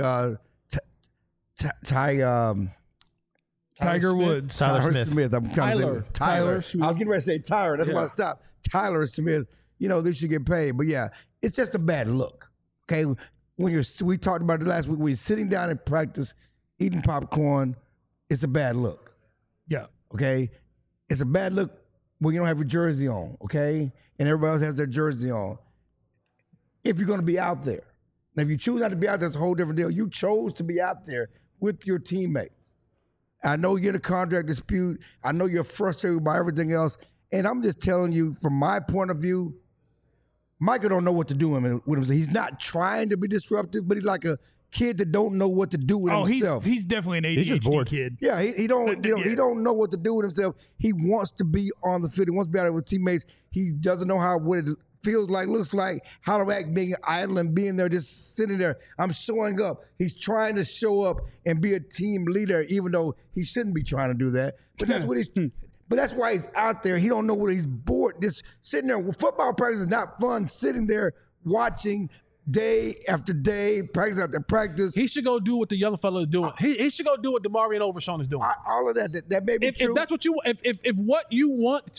Tiger Woods. Tyler Smith. I'm trying to say Tyler. Tyler Smith. I was getting ready to say Tyler. That's why I stopped. Tyler Smith. They should get paid. But yeah, it's just a bad look. Okay, we talked about it last week. When you're sitting down in practice, eating popcorn, it's a bad look. Yeah. Okay, it's a bad look when you don't have your jersey on. Okay, and everybody else has their jersey on. If you're going to be out there, now if you choose not to be out there, it's a whole different deal. You chose to be out there with your teammates. I know you're in a contract dispute. I know you're frustrated by everything else. And I'm just telling you, from my point of view, Michael don't know what to do with him. He's not trying to be disruptive, but he's like a kid that don't know what to do with himself. He's definitely an He's just ADHD bored. kid. Yeah, he don't know what to do with himself. He wants to be on the field. He wants to be out there with teammates. He doesn't know what it feels like, looks like, how to act being idle and being there, just sitting there. I'm showing up. He's trying to show up and be a team leader, even though he shouldn't be trying to do that. But that's what he's. But that's why he's out there. He don't know what he's bored. Just sitting there. Football practice is not fun. Sitting there watching day after day, practice after practice. He should go do what the young fella is doing. He should go do what DeMarion Overshawn is doing. All of that may be true. If that's what you, if what you want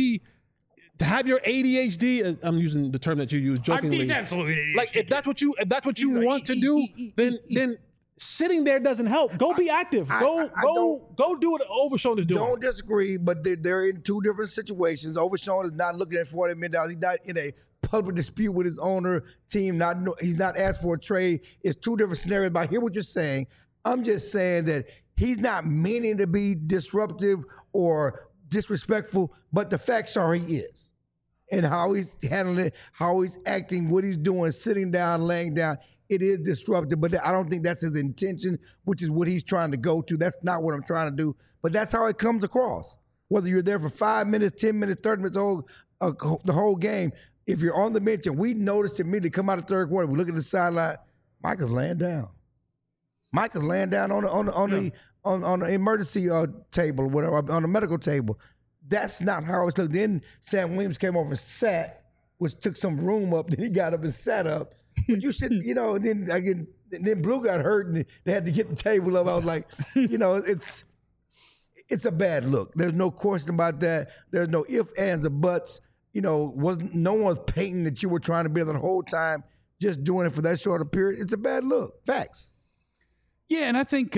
to have your ADHD, I'm using the term that you use jokingly. He's absolutely an ADHD Like if that's what you He's want to do, then sitting there doesn't help. Go be active. Go do what Overshawn is doing. Don't disagree, but they're in two different situations. Overshawn is not looking at $40 million. He's not in a public dispute with his owner team. He's not asked for a trade. It's two different scenarios. But I hear what you're saying. I'm just saying that he's not meaning to be disruptive or disrespectful, but the facts are he is. And how he's handling it, how he's acting, what he's doing, sitting down, laying down, it is disruptive. But I don't think that's his intention, which is what he's trying to go to. That's not what I'm trying to do. But that's how it comes across. Whether you're there for 5 minutes, 10 minutes, 30 minutes, the whole game, if you're on the bench, and we noticed immediately come out of third quarter, we look at the sideline, Michael's laying down. Michael's laying down on the emergency table or whatever, on the medical table. That's not how it's looked. Then Sam Williams came over and sat, which took some room up. Then he got up and sat up. But you should, then Blue got hurt and they had to get the table up. I was like, it's a bad look. There's no question about that. There's no ifs, ands, or buts. No one's painting that you were trying to be there the whole time, just doing it for that short a period. It's a bad look. Facts. Yeah, and I think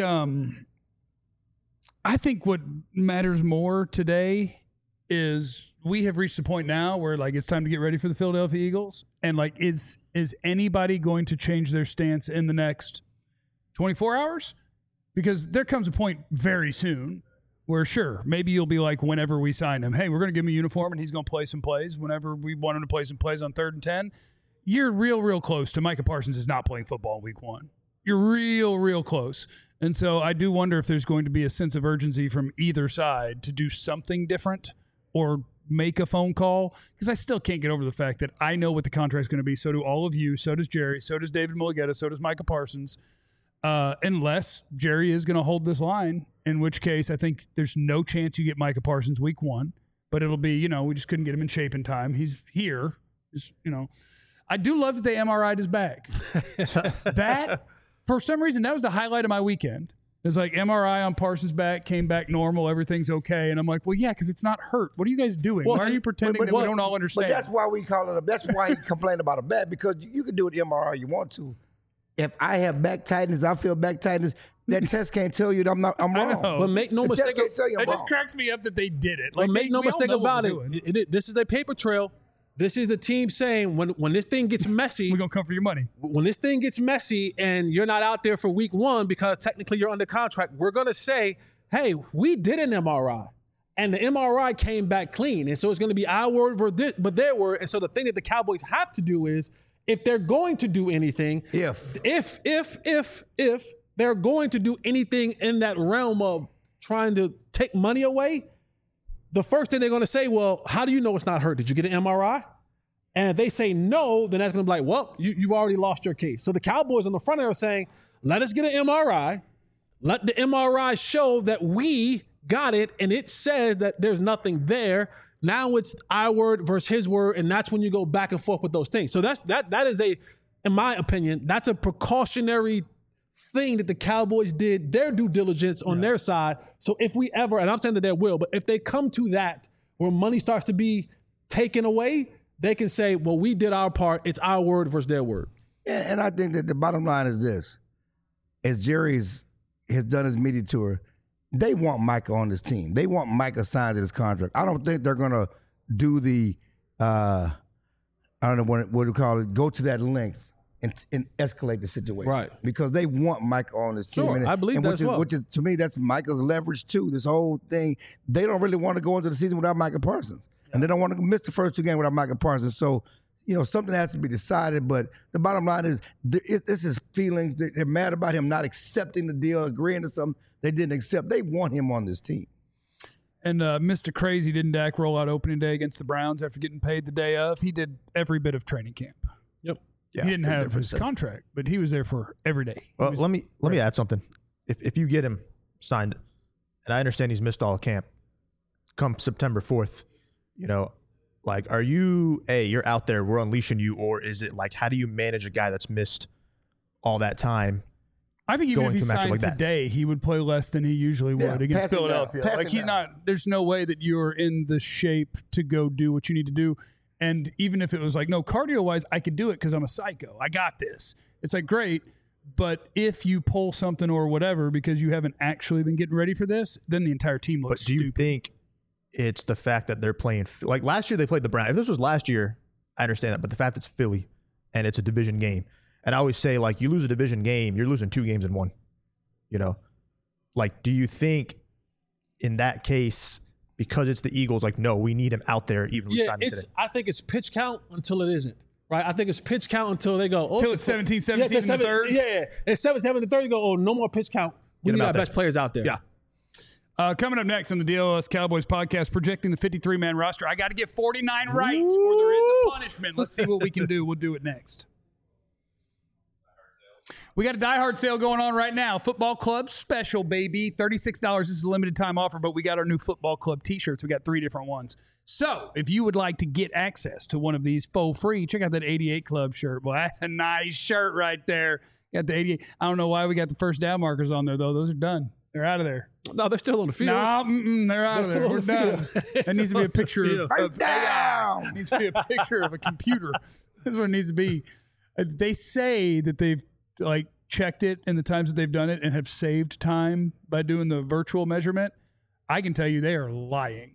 what matters more today is we have reached the point now where it's time to get ready for the Philadelphia Eagles, and is anybody going to change their stance in the next 24 hours? Because there comes a point very soon where sure, maybe you'll be like, whenever we sign him, hey, we're going to give him a uniform and he's going to play some plays. Whenever we want him to play some plays on 3rd and 10, you're real close to Micah Parsons is not playing football in week 1. You're real close. And so I do wonder if there's going to be a sense of urgency from either side to do something different or make a phone call, because I still can't get over the fact that I know what the contract's going to be. So do all of you. So does Jerry. So does David Mulligetta. So does Micah Parsons. Unless Jerry is going to hold this line, in which case I think there's no chance you get Micah Parsons week 1. But it'll be, we just couldn't get him in shape in time. He's here. I do love that they MRI'd his back. That, for some reason, that was the highlight of my weekend. It was like MRI on Parsons' back, came back normal, everything's okay. And I'm like, well, yeah, because it's not hurt. What are you guys doing? Why are you pretending that we don't all understand? But that's why we call it that's why he complained about a back, because you can do the MRI you want to. If I have back tightness, I feel back tightness, that test can't tell you that I'm wrong. But make no mistake. It just cracks me up that they did it. But make no mistake about it. This is a paper trail. This is the team saying when this thing gets messy, we're going to come for your money. When this thing gets messy and you're not out there for week 1 because technically you're under contract, we're going to say, hey, we did an MRI. And the MRI came back clean. And so it's going to be our word but their word. And so the thing that the Cowboys have to do is, if they're going to do anything, if they're going to do anything in that realm of trying to take money away, the first thing they're going to say, well, how do you know it's not hurt? Did you get an MRI? And if they say no, then that's going to be like, well, you've already lost your case. So the Cowboys on the front end are saying, let us get an MRI. Let the MRI show that we got it, and it says that there's nothing there. Now it's our word versus his word, and that's when you go back and forth with those things. So that is in my opinion, that's a precautionary thing that the Cowboys did their due diligence on their side. So if we ever, and I'm saying that they will, but if they come to that where money starts to be taken away, they can say, well, we did our part. It's our word versus their word. And I think that the bottom line is this. As Jerry has done his media tour, they want Micah on this team. They want Micah signed to this contract. I don't think they're going to do the, I don't know what to call it, go to that length and escalate the situation. Right. Because they want Micah on this team. Sure, I believe that as well. Which is, to me, that's Micah's leverage too. This whole thing, they don't really want to go into the season without Micah Parsons. And they don't want to miss the first 2 games without Micah Parsons. So, something has to be decided. But the bottom line is, this is feelings. They're mad about him not accepting the deal, agreeing to something they didn't accept. They want him on this team. And Mr. Crazy didn't Dak roll out opening day against the Browns after getting paid the day of. He did every bit of training camp. Yep. Yeah, he didn't have his contract, but he was there for every day. Well, let me add something. If you get him signed, and I understand he's missed all camp, come September 4th, are you you're out there, we're unleashing you, or is it like, how do you manage a guy that's missed all that time? I think even if he to a matchup signed like that. today, he would play less than he usually would against pass him down. Philadelphia. Pass Like him he's down. not. There's no way that you're in the shape to go do what you need to do. And even if it was like, no, cardio wise, I could do it because I'm a psycho. I got this. It's like, great. But if you pull something or whatever because you haven't actually been getting ready for this, then the entire team looks But do you stupid. think it's the fact that they're playing, like last year they played the Browns. If this was last year, I understand that. But the fact that it's Philly and it's a division game. And I always say, like, you lose a division game, you're losing 2 games in one. Like, do you think in that case, because it's the Eagles, like, no, we need him out there even if we sign him today? I think it's pitch count until it isn't. Right? I think it's pitch count until they go, Until it's 17-17 in the third? Yeah. It's 17-17 in the third. You go, no more pitch count. We Get him need out our there. best players out there. Yeah. Coming up next on the DLS Cowboys podcast, projecting the 53-man roster. I got to get 49 right, or there is a punishment. Let's see what we can do. We'll do it next. We got a Die Hard sale going on right now. Football Club special, baby. $36. This is a limited time offer, but we got our new Football Club t-shirts. We got 3 different ones. So if you would like to get access to one of these for free, check out that 88 Club shirt. Well, that's a nice shirt right there. Got the 88. I don't know why we got the first down markers on there, though. Those are done. They're out of there. No, they're still on the field. No, they're out of there. We're done. That needs to be a picture of down. It needs to be a picture of a computer. That's what it needs to be. They say that they've checked it in the times that they've done it and have saved time by doing the virtual measurement. I can tell you they are lying.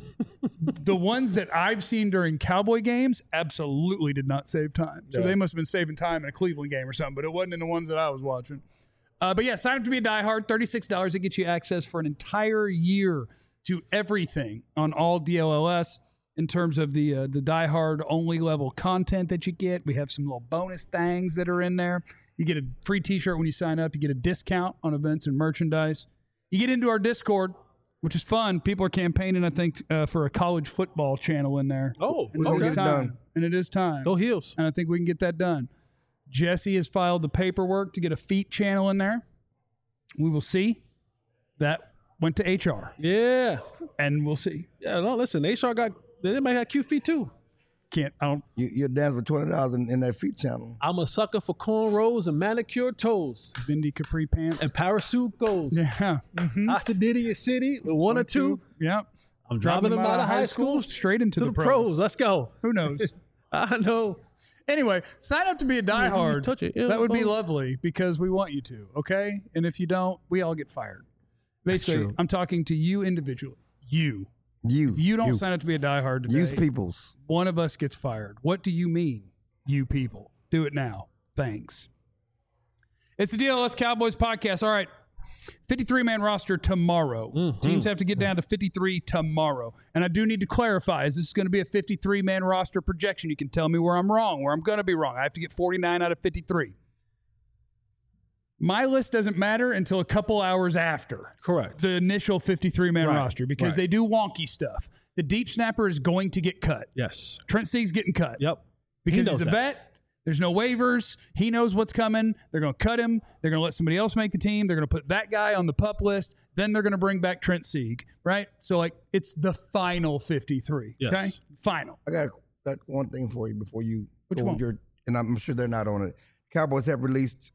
The ones that I've seen during Cowboy games absolutely did not save time. So they must have been saving time in a Cleveland game or something, but it wasn't in the ones that I was watching. But yeah, sign up to be a diehard. $36 to get you access for an entire year to everything on all DLLS in terms of the diehard only level content that you get. We have some little bonus things that are in there. You get a free t-shirt when you sign up. You get a discount on events and merchandise. You get into our Discord, which is fun. People are campaigning, I think, for a college football channel in there. Oh, and okay. it is time. And it is time. Go Heels. And I think we can get that done. Jesse has filed the paperwork to get a feet channel in there. We will see. That went to HR. Yeah. And we'll see. Yeah, no, listen, HR they might have cute feet too. I don't. You dance for $20 in that feet channel. I'm a sucker for cornrows and manicured toes. Bindi capri pants. And parachute goes. Yeah. Mm-hmm. Occididia City with 1 or 2. Yep. I'm driving them out of high school straight into to the pros. Let's go. Who knows? I know. Anyway, sign up to be a diehard. touch it. That would be lovely because we want you to, okay? And if you don't, we all get fired. Basically, I'm talking to you individually. You. If you don't sign up to be a diehard today, Use peoples. one of us gets fired. What do you mean, you people? Do it now. Thanks. It's the DLS Cowboys podcast. All right. 53-man roster tomorrow. Teams have to get down to 53 tomorrow. And I do need to clarify, is this going to be a 53-man roster projection? You can tell me where I'm wrong, where I'm going to be wrong. I have to get 49 out of 53. My list doesn't matter until a couple hours after. Correct. The initial 53-man Right, roster because right. they do wonky stuff. The deep snapper is going to get cut. Yes. Trent Sieg's getting cut. Yep. Because He knows he's a that. vet. There's no waivers. He knows what's coming. They're going to cut him. They're going to let somebody else make the team. They're going to put that guy on the PUP list. Then they're going to bring back Trent Sieg, right? So, like, it's the final 53. Yes. Okay? Final. I got one thing for you before you Which go one? with your, and I'm sure they're not on it. Cowboys have released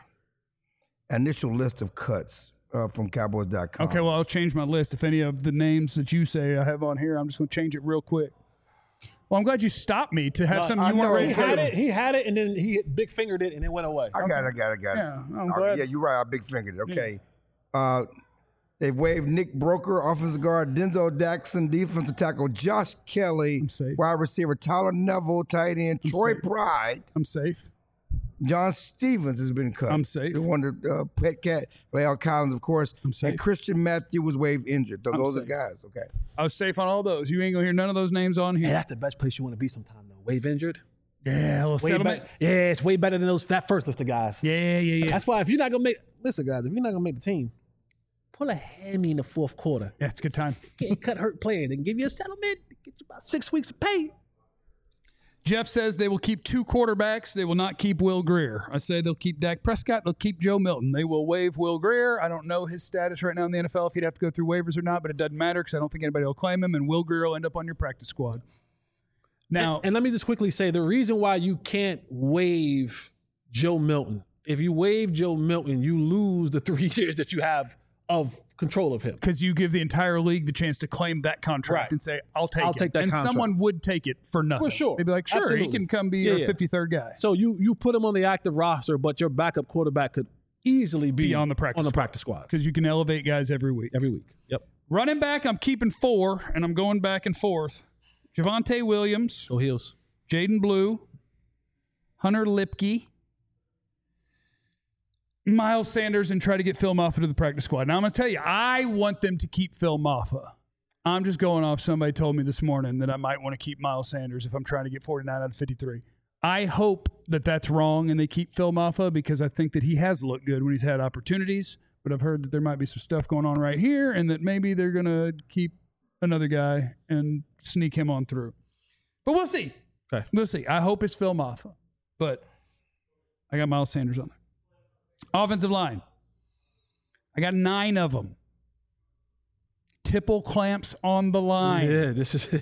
initial list of cuts from Cowboys.com. Okay, well, I'll change my list. If any of the names that you say I have on here, I'm just going to change it real quick. Well, I'm glad you stopped me to have something I you weren't know. ready He to had do. it. He had it, and then he big fingered it, and it went away. I got it. Yeah, I'm All right, glad. yeah, you're right. I big fingered it. Okay. They've waived Nick Broker, offensive guard, Denzel Jackson, defensive tackle, Josh Kelly, safe. wide receiver, Tyler Neville, tight end, Troy safe. Pride, I'm safe. John Stevens has been cut. I'm safe. The one that Pet Cat, Lael Collins, of course, I'm safe. and Christian Matthew was waived injured. Those are safe. guys. Okay. I was safe on all those. You ain't going to hear none of those names on Hey, here. that's the best place you want to be sometime, though. Wave injured. Yeah, a little Way settlement. better. Yeah, it's way better than that first list of guys. Yeah. That's why if you're not gonna make, listen, guys, if you're not gonna make the team, pull a hammy in the fourth quarter. Yeah, it's a good time. Get cut hurt players. They can give you a settlement. Get you about 6 weeks of pay. Jeff says they will keep 2 quarterbacks. They will not keep Will Grier. I say they'll keep Dak Prescott. They'll keep Joe Milton. They will waive Will Grier. I don't know his status right now in the NFL, if he'd have to go through waivers or not, but it doesn't matter because I don't think anybody will claim him, and Will Grier will end up on your practice squad. Now, And let me just quickly say the reason why you can't waive Joe Milton. If you waive Joe Milton, you lose the 3 years that you have of control of him. because you give the entire league the chance to claim that contract Right. and say, I'll take I'll it. take that and contract. someone would take it for nothing. For sure. They'd be like, sure, he Absolutely. can come be Yeah, your yeah. 53rd guy. So you put him on the active roster, but your backup quarterback could easily be on the practice squad Because you can elevate guys every week. every week. Yep. Running back, I'm keeping 4, and I'm going back and forth. Javonte Williams, Go Heels. Jaden Blue, Hunter Lipke, Miles Sanders, and try to get Phil Maffa to the practice squad. Now, I'm going to tell you, I want them to keep Phil Maffa. I'm just going off somebody told me this morning that I might want to keep Miles Sanders if I'm trying to get 49 out of 53. I hope that that's wrong and they keep Phil Maffa because I think that he has looked good when he's had opportunities, but I've heard that there might be some stuff going on right here and that maybe they're going to keep another guy and sneak him on through. But we'll see. Okay. We'll see. I hope it's Phil Maffa, but I got Miles Sanders on there. Offensive line. I got 9 of them. Tipple clamps on the line. Yeah, this is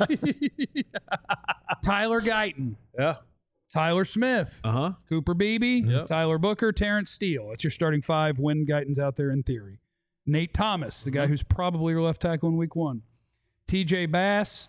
Tyler Guyton. yeah. Tyler Smith. Uh-huh. Cooper Beebe. Yep. Tyler Booker. Terrence Steele. That's your starting 5 when Guyton's out there in theory. Nate Thomas, the guy who's probably your left tackle in week 1. TJ Bass.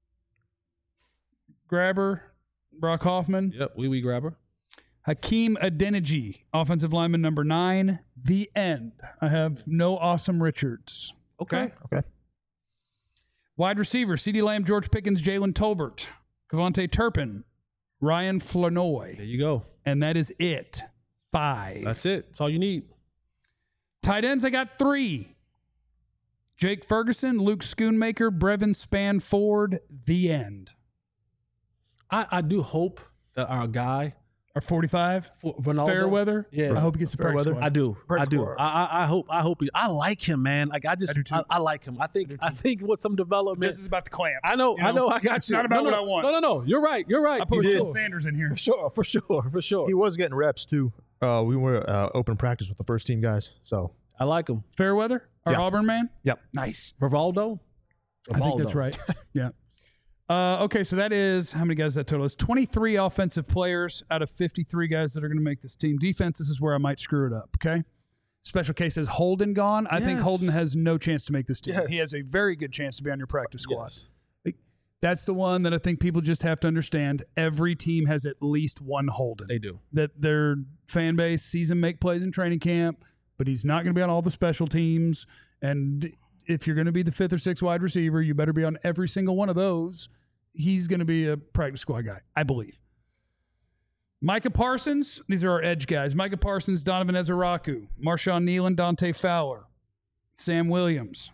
Grabber. Brock Hoffman. Yep, wee grabber. Hakeem Adeniji, offensive lineman number 9. The end. I have no Awesome Richards. Okay. Okay. Wide receiver, CeeDee Lamb, George Pickens, Jalen Tolbert, Kevontae Turpin, Ryan Flanoy. There you go. And that is it. 5. That's it. That's all you need. Tight ends, I got 3. Jake Ferguson, Luke Schoonmaker, Brevin Spanford. The end. I do hope that our guy Or 45. Ronaldo, Fairweather. Yeah. I hope he gets the practice Fairweather. squad. I do. Practice I do. squad. I hope I like him, man. Like I I do too. like him. I think with some development. This is about the clamps. I know. you I know. I got It's you. not about no, what no, I want. No. You're right. You're right. I put You Will did. Sanders in here. For sure. He was getting reps too. We were open practice with the first team guys. So I like him. Fairweather, our Yeah. Auburn man. yep. Nice. Rivaldo. I think that's right. Yeah. Okay, so that is, how many guys is that total is? 23 offensive players out of 53 guys that are going to make this team. Defense, this is where I might screw it up, okay? Special case is Holden gone. I think Yes. Holden has no chance to make this team. Yes. He has a very good chance to be on your practice squad. Yes. That's the one that I think people just have to understand. Every team has at least one Holden. They do. That their fan base sees him make plays in training camp, but he's not going to be on all the special teams. And if you're going to be the 5th or 6th wide receiver, you better be on every single one of those. He's going to be a practice squad guy, I believe. Micah Parsons, these are our edge guys. Micah Parsons, Donovan Ezeraku, Marshawn Nealon, Dante Fowler, Sam Williams,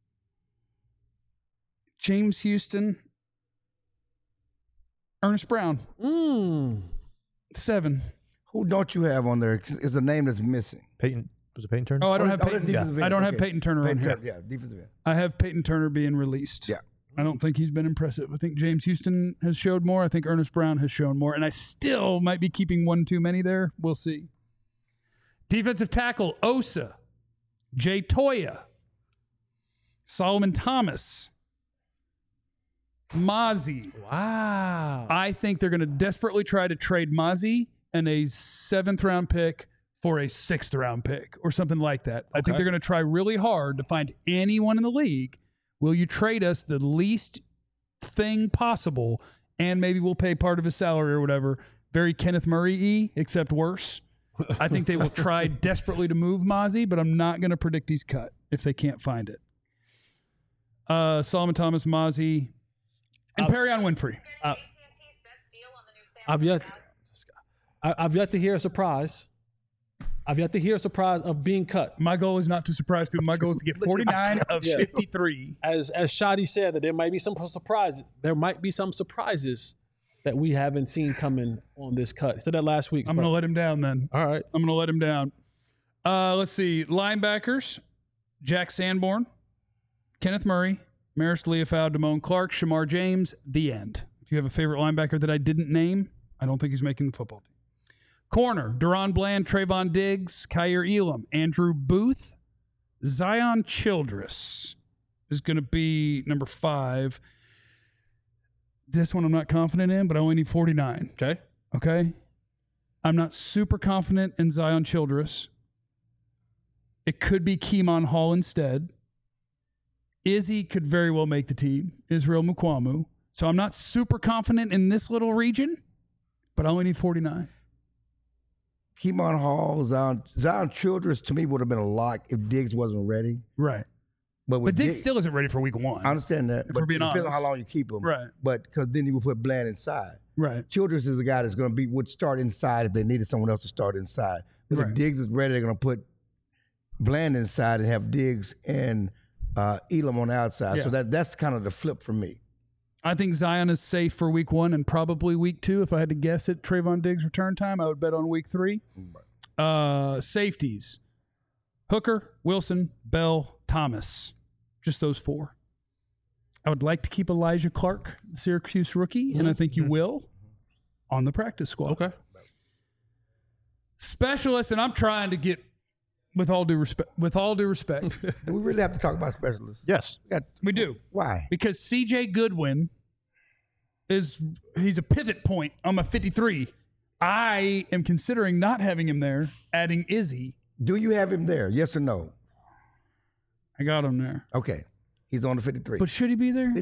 James Houston, Ernest Brown. 7. Who don't you have on there? Is a name that's missing. Peyton was it Peyton Turner? Oh, I don't have that's Peyton. defensive end. I don't have Okay. Peyton Turner on here. Yeah, defensive end. I have Peyton Turner being released. Yeah. I don't think he's been impressive. I think James Houston has showed more. I think Ernest Brown has shown more. And I still might be keeping one too many there. We'll see. Defensive tackle, Osa. Jay Toya. Solomon Thomas. Mozzie. Wow. I think they're going to desperately try to trade Mozzie and a 7th-round pick for a 6th-round pick or something like that. I think they're going to try really hard to find anyone in the league. Will you trade us the least thing possible, and maybe we'll pay part of his salary or whatever? Very Kenneth Murray-y, except worse. I think they will try desperately to move Mozzie, but I'm not going to predict he's cut if they can't find it. Solomon Thomas, Mozzie, and Perion Winfrey. I've yet to hear a surprise. I've yet to hear a surprise of being cut. My goal is not to surprise people. My goal is to get 49 of 53. As Shadi said, that there might be some surprises. There might be some surprises that we haven't seen coming on this cut. Said that last week. I'm going to let him down then. All right. I'm going to let him down. Let's see. Linebackers, Jack Sanborn, Kenneth Murray, Maris Leofau, Damone Clark, Shamar James, the end. If you have a favorite linebacker that I didn't name, I don't think he's making the football team. Corner, Deron Bland, Trayvon Diggs, Kyer Elam, Andrew Booth, Zion Childress is going to be number 5. This one I'm not confident in, but I only need 49. Okay? I'm not super confident in Zion Childress. It could be Keemon Hall instead. Izzy could very well make the team, Israel Mukwamu. So I'm not super confident in this little region, but I only need 49. Keemon Hall, Zion Childress to me would have been a lock if Diggs wasn't ready. Right. But Diggs still isn't ready for week 1. I understand that. If we're being depends on honest. how long you keep him. Right. But because then you would put Bland inside. Right. Childress is the guy that's going to would start inside if they needed someone else to start inside. But Right. if Diggs is ready, they're going to put Bland inside and have Diggs and Elam on the outside. Yeah. So that's kind of the flip for me. I think Zion is safe for week 1 and probably week 2. If I had to guess at Trayvon Diggs' return time, I would bet on week 3. Safeties, Hooker, Wilson, Bell, Thomas. Just those 4. I would like to keep Elijah Clark, the Syracuse rookie, and I think you will, on the practice squad. Okay. Specialists, and I'm trying to get, with all due respect, Do we really have to talk about specialists? Yes. we do. Why? Because C.J. Goodwin he's a pivot point on my 53. I am considering not having him there, adding Izzy. Do you have him there? Yes or no? I got him there. Okay. He's on the 53. But should he be there?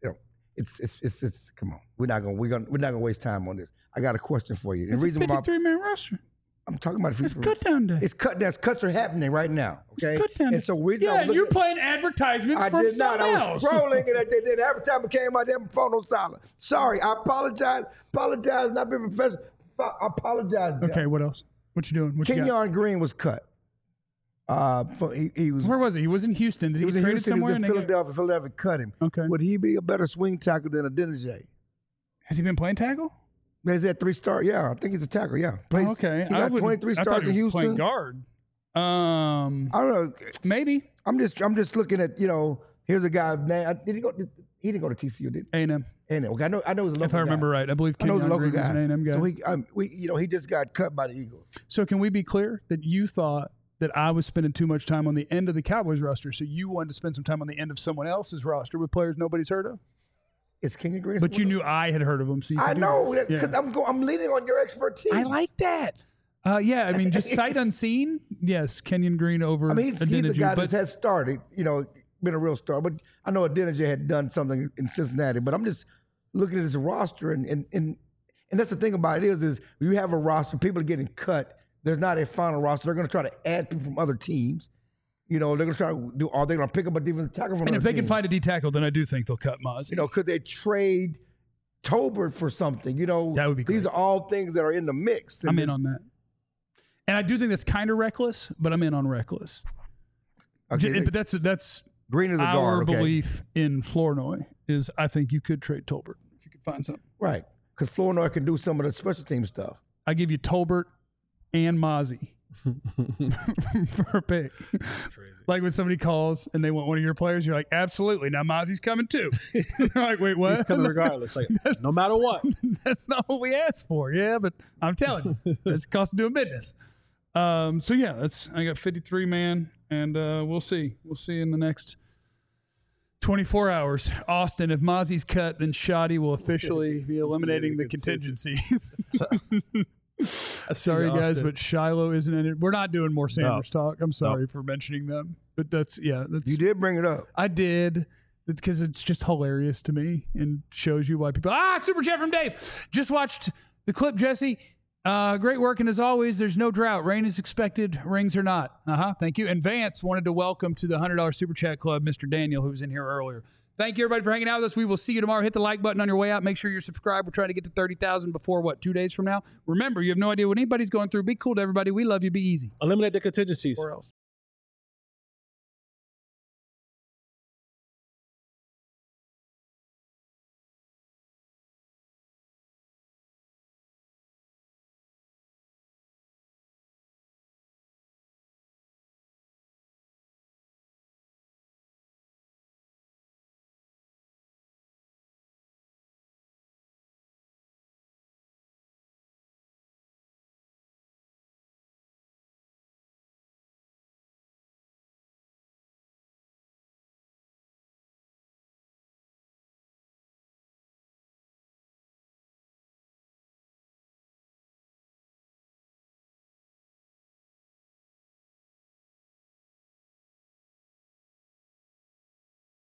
It's come on. We're not gonna waste time on this. I got a question for you. It's a 53-man roster. I'm talking about It's cut down day. It's cuts are happening right now. Okay. Cut down And so reason I yeah, was looking you're playing advertisements I from did not. someone I was else. scrolling and the advertisement came out. Damn phone on silent. Sorry. I apologize. Not being professional. I apologize. Okay, what else? What you doing? What you got? Kenyon Green was cut. He was. Where was he? He was in Houston. Did he He was get in traded Houston. He somewhere? was in and they got- Philadelphia. Philadelphia cut him. Okay. Would he be a better swing tackle than a Denijay? Has he been playing tackle? Has that 3-star? Yeah, I think he's a tackle. Yeah. Oh, okay. He got 23 I thought stars he in was playing Houston. guard. I don't know. Maybe I'm just looking at, here's a guy. Man, he didn't go to TCU, did he? A&M. And okay, I know he's a local If I remember guy. right, I believe I know he's a Kenyon local Green was guy. an A&M guy. So he just got cut by the Eagles. So can we be clear that you thought that I was spending too much time on the end of the Cowboys roster, so you wanted to spend some time on the end of someone else's roster with players nobody's heard of? It's Kenyon Green. But you knew I had heard of them, so you I could do know that. because I'm leaning on your expertise. I like that. Yeah, I mean, just sight unseen. Yes, Kenyon Green over. I mean, he's the Adeniji, guy but that has started. Been a real star. But I know Adeniji had done something in Cincinnati. But I'm just looking at his roster, and that's the thing about it is you have a roster, people are getting cut. There's not a final roster. They're going to try to add people from other teams. They're going to try to do. Are they going to pick up a defensive tackle from? and another if they team? can find a D tackle, then I do think they'll cut Maz. could they trade Tolbert for something? That would be These great. are all things that are in the mix. I'm in on that. And I do think that's kind of reckless, but I'm in on reckless. Okay, But that's Green is a our guard. Okay, belief in Flournoy is I think you could trade Tolbert if you could find something. right? Because Flournoy can do some of the special team stuff. I give you Tolbert and Mozzie for a pick. Like when somebody calls and they want one of your players, you're like, absolutely. Now Mozzie's coming too. They're like, wait, what? He's coming regardless. Like, no matter what. That's not what we asked for. Yeah, but I'm telling you, that's the cost of doing business. So yeah, I got 53 man, and we'll see. We'll see in the next 24 hours. Austin, if Mozzie's cut, then Shoddy will officially be eliminating the contingencies. Sorry, guys, but Shiloh isn't in it. We're not doing more Sanders talk. I'm sorry for mentioning them, but that's You did bring it up. I did, because it's just hilarious to me and shows you why people. Super chat from Dave. Just watched the clip, Jesse. Great work, and as always, there's no drought. Rain is expected, rings or not. Thank you. And Vance wanted to welcome to the $100 Super Chat Club Mr. Daniel, who was in here earlier. Thank you, everybody, for hanging out with us. We will see you tomorrow. Hit the like button on your way out. Make sure you're subscribed. We're trying to get to 30,000 before, 2 days from now? Remember, you have no idea what anybody's going through. Be cool to everybody. We love you. Be easy. Eliminate the contingencies. Or else.